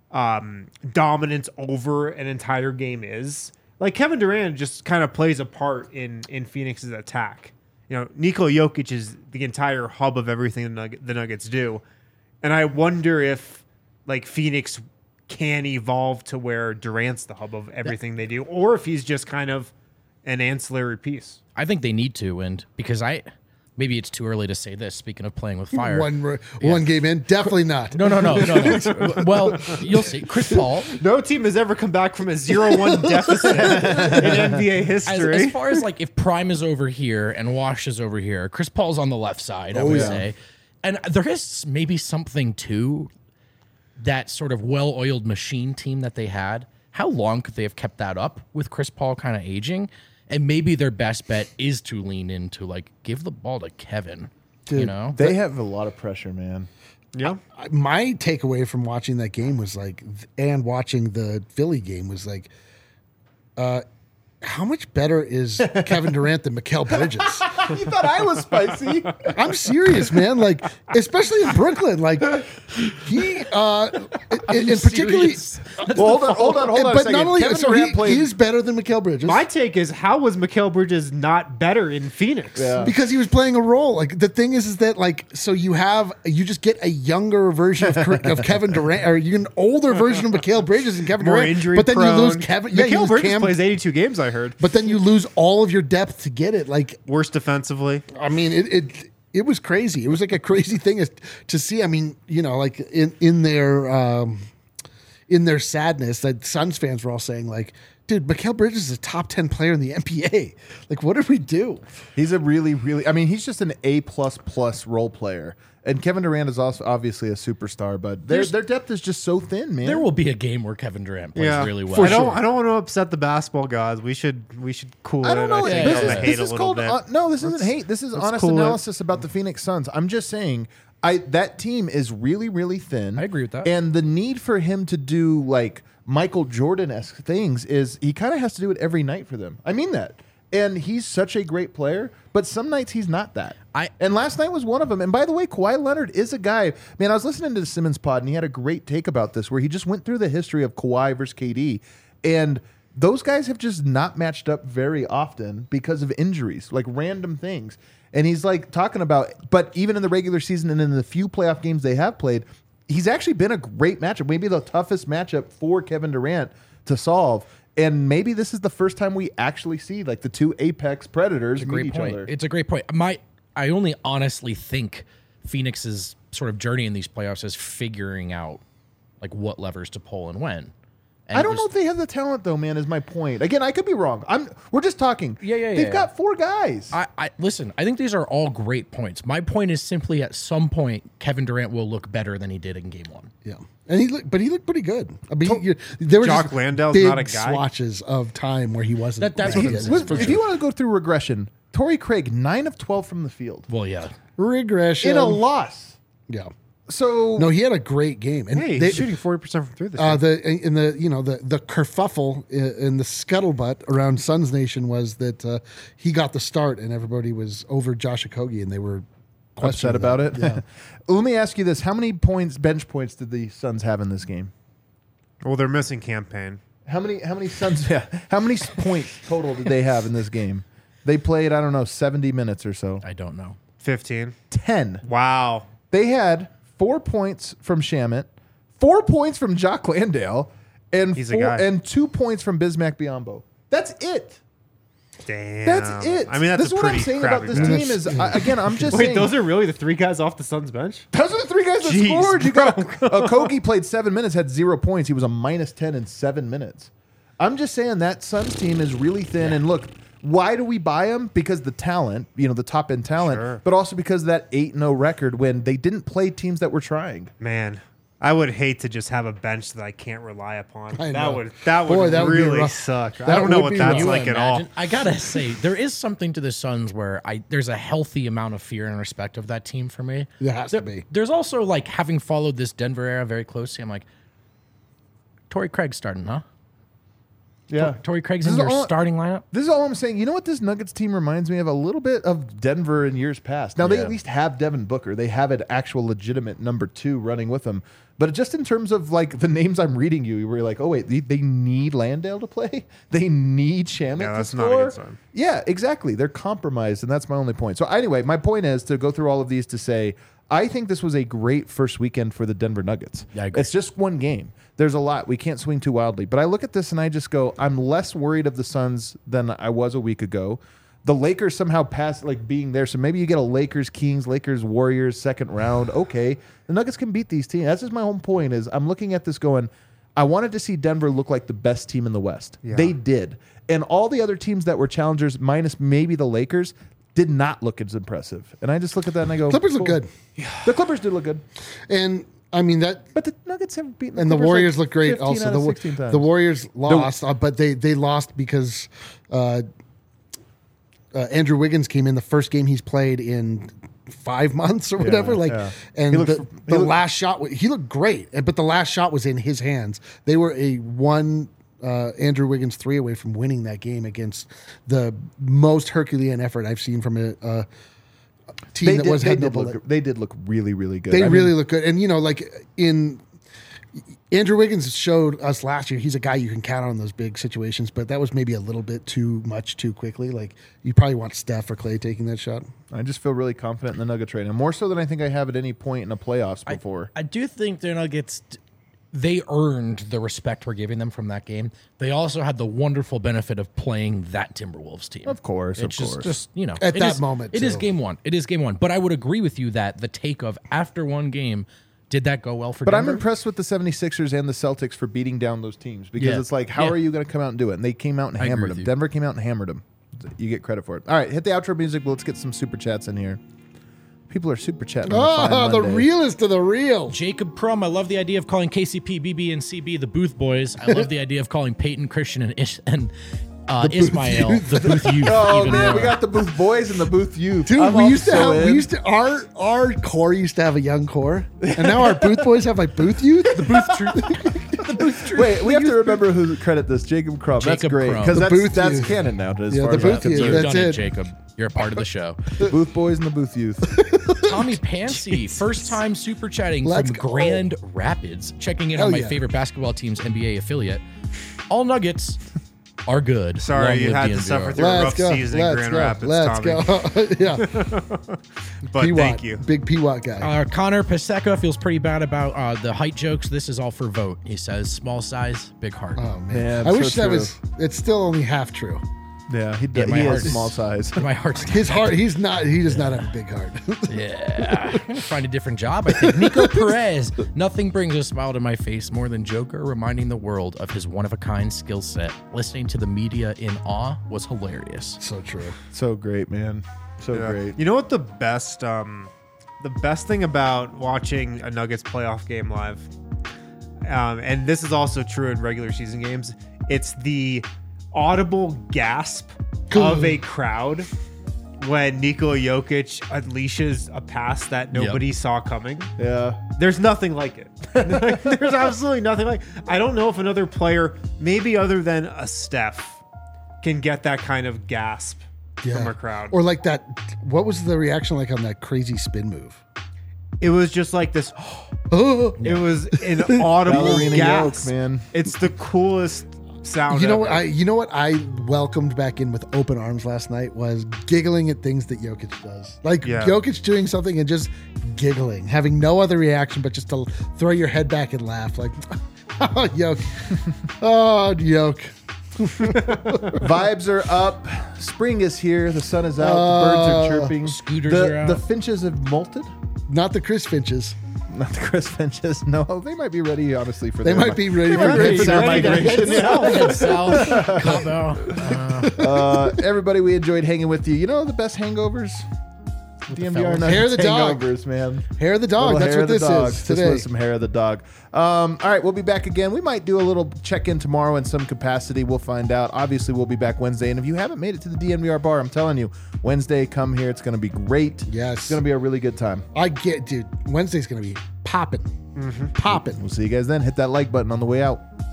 dominance over an entire game is. Like Kevin Durant just kind of plays a part in Phoenix's attack. You know, Nikola Jokic is the entire hub of everything the Nuggets do. And I wonder if like Phoenix can evolve to where Durant's the hub of everything they do, or if he's just kind of an ancillary piece. I think they need to, and because maybe it's too early to say this. Speaking of playing with fire, One game in, definitely not. no. Well, you'll see. Chris Paul, No team has ever come back from a 0-1 deficit in NBA history. as far as like if Prime is over here and Wash is over here, Chris Paul's on the left side. I would yeah. say And there is maybe something to that sort of well-oiled machine team that they had. How long could they have kept that up with Chris Paul kind of aging? And maybe their best bet is to lean into, like, give the ball to Kevin. Dude, you know? They have a lot of pressure, man. Yeah. My takeaway from watching that game was like, and watching the Philly game was like, how much better is Kevin Durant than Mikal Bridges? You thought I was spicy. I'm serious, man. Like, especially in Brooklyn, like he, and particularly, Well, hold on a but second. not only Kevin so Durant he played. is better than Mikal Bridges. My take is, how was Mikal Bridges not better in Phoenix? Yeah. Because he was playing a role. Like the thing is that like so you just get a younger version of Kevin Durant, or you get an older version of Mikal Bridges and Kevin More Durant. injury but then prone. you lose Kevin. Yeah, you Mikal lose Bridges Cam, plays 82 games, I heard. but then you lose all of your depth to get it. Like Worse defensively. I mean, it was crazy. It was like a crazy thing to see. I mean, you know, like in their sadness, that Suns fans were all saying like, dude, Mikal Bridges is a top 10 player in the NBA. Like, what did we do? He's a really, really. I mean, he's just an A++ role player. And Kevin Durant is also obviously a superstar, but their depth is just so thin, man. There will be a game where Kevin Durant plays really well. I don't want to upset the basketball gods. We should cool I it. don't know. I think, Yeah, on the yeah. hate This a is little called bit. no. This isn't hate. This is honest cool it. analysis about the Phoenix Suns. I'm just saying, that team is really, really thin. I agree with that. And the need for him to do like Michael Jordan-esque things is he kind of has to do it every night for them. I mean that. And he's such a great player, but some nights he's not that. And last night was one of them. And by the way, Kawhi Leonard is a guy. Man, I was listening to the Simmons pod, and he had a great take about this, where he just went through the history of Kawhi versus KD, and those guys have just not matched up very often because of injuries, like random things. And he's like talking about, but even in the regular season and in the few playoff games they have played, he's actually been a great matchup, maybe the toughest matchup for Kevin Durant to solve. And maybe this is the first time we actually see like the two apex predators meet each other. It's a great point. I only honestly think Phoenix's sort of journey in these playoffs is figuring out like what levers to pull and when. And I don't know if they have the talent though, man, is my point. Again, I could be wrong. We're just talking. They've got four guys. I listen, I think these are all great points. My point is simply at some point Kevin Durant will look better than he did in game one. Yeah. And he looked pretty good. I mean, there were Jock just Landale's big not a guy. swatches of time where he wasn't. That's what I'm Yeah, saying. for If sure. you want to go through regression, Torrey Craig, 9 of 12 from the field. Well, yeah. Regression In a loss. Yeah. So No, he had a great game. And Hey, they- he's shooting 40% from three this year. the kerfuffle in the scuttlebutt around Suns Nation was that he got the start and everybody was over Josh Okogie and they were upset questioning about that. it. Yeah. Let me ask you this. How many bench points did the Suns have in this game? Well, they're missing campaign. How many Suns how many points total did they have in this game? They played, I don't know, 70 minutes or so. I don't know. 15. 10. Wow. They had 4 points from Shamet, 4 points from Jock Landale, and He's a guy. 2 points from Bismack Biyombo. That's it. Damn. That's it. I mean, that's this is a what I'm pretty saying about crappy this bench. team is, again, I'm just Wait, saying. those are really the three guys off the Suns bench? Those are the three guys that Jeez, scored. You got Okogie played 7 minutes, had 0 points. He was a -10 in 7 minutes. I'm just saying that Suns team is really thin. And look, why do we buy them? Because the talent, the top end talent, Sure. but also because of that 8-0 record when they didn't play teams that were trying. Man, I would hate to just have a bench that I can't rely upon. I know. That would Boy, that would be really rough. suck. I That don't know would what be that's rough. like at all. I gotta say, there is something to the Suns where there's a healthy amount of fear and respect of that team for me. There has to be. There's also like having followed this Denver era very closely. I'm like, Torrey Craig's starting, huh? Yeah. Torrey Craig's This in is your all- starting lineup. This is all I'm saying. You know what this Nuggets team reminds me of? A little bit of Denver in years past. Now, they Yeah. at least have Devin Booker. They have an actual legitimate number 2 running with them. But just in terms of like the names I'm reading you were like, oh, wait, they need Landale to play? They need Shamet Yeah, to that's score? not a good sign. Yeah, exactly. They're compromised, and that's my only point. So anyway, my point is to go through all of these to say, I think this was a great first weekend for the Denver Nuggets. Yeah, I agree. It's just one game. There's a lot. We can't swing too wildly. But I look at this and I just go, I'm less worried of the Suns than I was a week ago. The Lakers somehow passed like being there. So maybe you get a Lakers Kings, Lakers Warriors second round. Okay. The Nuggets can beat these teams. That's just my whole point is I'm looking at this going, I wanted to see Denver look like the best team in the West. Yeah. They did. And all the other teams that were challengers, minus maybe the Lakers, did not look as impressive. And I just look at that and I go, Clippers look cool. good. The Clippers did look good. And I mean that. But the Nuggets haven't beaten the And the Clippers Warriors like look great 15 also. out of 16 times. The Warriors lost, but they lost because Andrew Wiggins came in the first game he's played in 5 months or whatever. And the last shot, he looked great, but the last shot was in his hands. They were a Andrew Wiggins 3 away from winning that game against the most Herculean effort I've seen from a team They did look really, really good. They really look good. And, Andrew Wiggins showed us last year he's a guy you can count on in those big situations, but that was maybe a little bit too much too quickly. Like, you probably want Steph or Clay taking that shot. I just feel really confident in the Nuggets right now, more so than I think I have at any point in the playoffs before. I do think the Nuggets, they earned the respect we're giving them from that game. They also had the wonderful benefit of playing that Timberwolves team. Of course, it's just at that moment, it is game one. It is game one. But I would agree with you that the take of after one game, did that go well for But Denver? I'm impressed with the 76ers and the Celtics for beating down those teams because it's like, how are you going to come out and do it? And they came out and hammered them. Denver came out and hammered them. You get credit for it. All right, hit the outro music. Let's get some super chats in here. People are super chatting. The realest of the real. Jacob Prum, I love the idea of calling KCP, BB, and CB the Booth Boys. I love the idea of calling Peyton, Christian, and Ismail the Booth Youth. Oh even man, more. we got the Booth Boys and the Booth Youth. Dude, our core used to have a young core, and now our Booth Boys have like Booth Youth. The Booth Truth. Wait, we have to remember who credit this. Jacob Crumb. That's Jacob great Crumb. because The Booth that's Youth. canon now. As Yeah, far the as I'm Booth Youth. concerned. You've That's done it, it. Jacob. You're a part of the show. Booth Boys and the Booth Youth. Tommy Pansy, first time super chatting Let's from go. Grand Rapids, checking in Hell on my yeah. favorite basketball team's NBA affiliate. All Nuggets are good. Sorry, Long you live had the to NVR. suffer through a rough season in Grand Rapids, Let's Tommy. go. Yeah. But P-Watt, thank you. Big P-Watt guy. Connor Paseka feels pretty bad about the height jokes. This is all for vote. He says, small size, big heart. Oh, man. Man, I so wish that true. it's still only half true. Yeah, he my he heart is is- small size. My heart's not His that heart, big. he does not have a big heart. Yeah. I'm going to find a different job, I think. Nico Perez. Nothing brings a smile to my face more than Joker reminding the world of his one-of-a-kind skill set. Listening to the media in awe was hilarious. So true. So great, man. So great. You know what the best thing about watching a Nuggets playoff game live, and this is also true in regular season games, it's the audible gasp of a crowd when Nikola Jokic unleashes a pass that nobody saw coming. Yeah. There's nothing like it. There's absolutely nothing like. I don't know if another player, maybe other than a Steph, can get that kind of gasp from a crowd. Or like that. What was the reaction like on that crazy spin move? It was just like this. Oh, It was an audible Ballerina gasp, yoke, man. It's the coolest sound. you know ever. what? You know what I welcomed back in with open arms last night was giggling at things that Jokic does. Like Jokic doing something and just giggling, having no other reaction but just to throw your head back and laugh. Like, oh, Yoke, oh, Yoke. Vibes are up. Spring is here. The sun is out. The birds are chirping. Scooters are out. The finches have molted. Not the Chris Finches. Not the Chris Finches. No, they might be ready, honestly, for They their might be ready might for be ready for their ready to migration. Head south. Cabo. Everybody, we enjoyed hanging with you. You know the best hangovers? DNVR fellas. Nuggets Hair of the dog. hangovers, man. Hair of the dog. Little That's hair what of the this dog. is This today. was some hair of the dog. All right, we'll be back again. We might do a little check-in tomorrow in some capacity. We'll find out. Obviously, we'll be back Wednesday. And if you haven't made it to the DNVR bar, I'm telling you, Wednesday, come here. It's going to be great. Yes. It's going to be a really good time. Dude, Wednesday's going to be popping. Popping. We'll see you guys then. Hit that like button on the way out.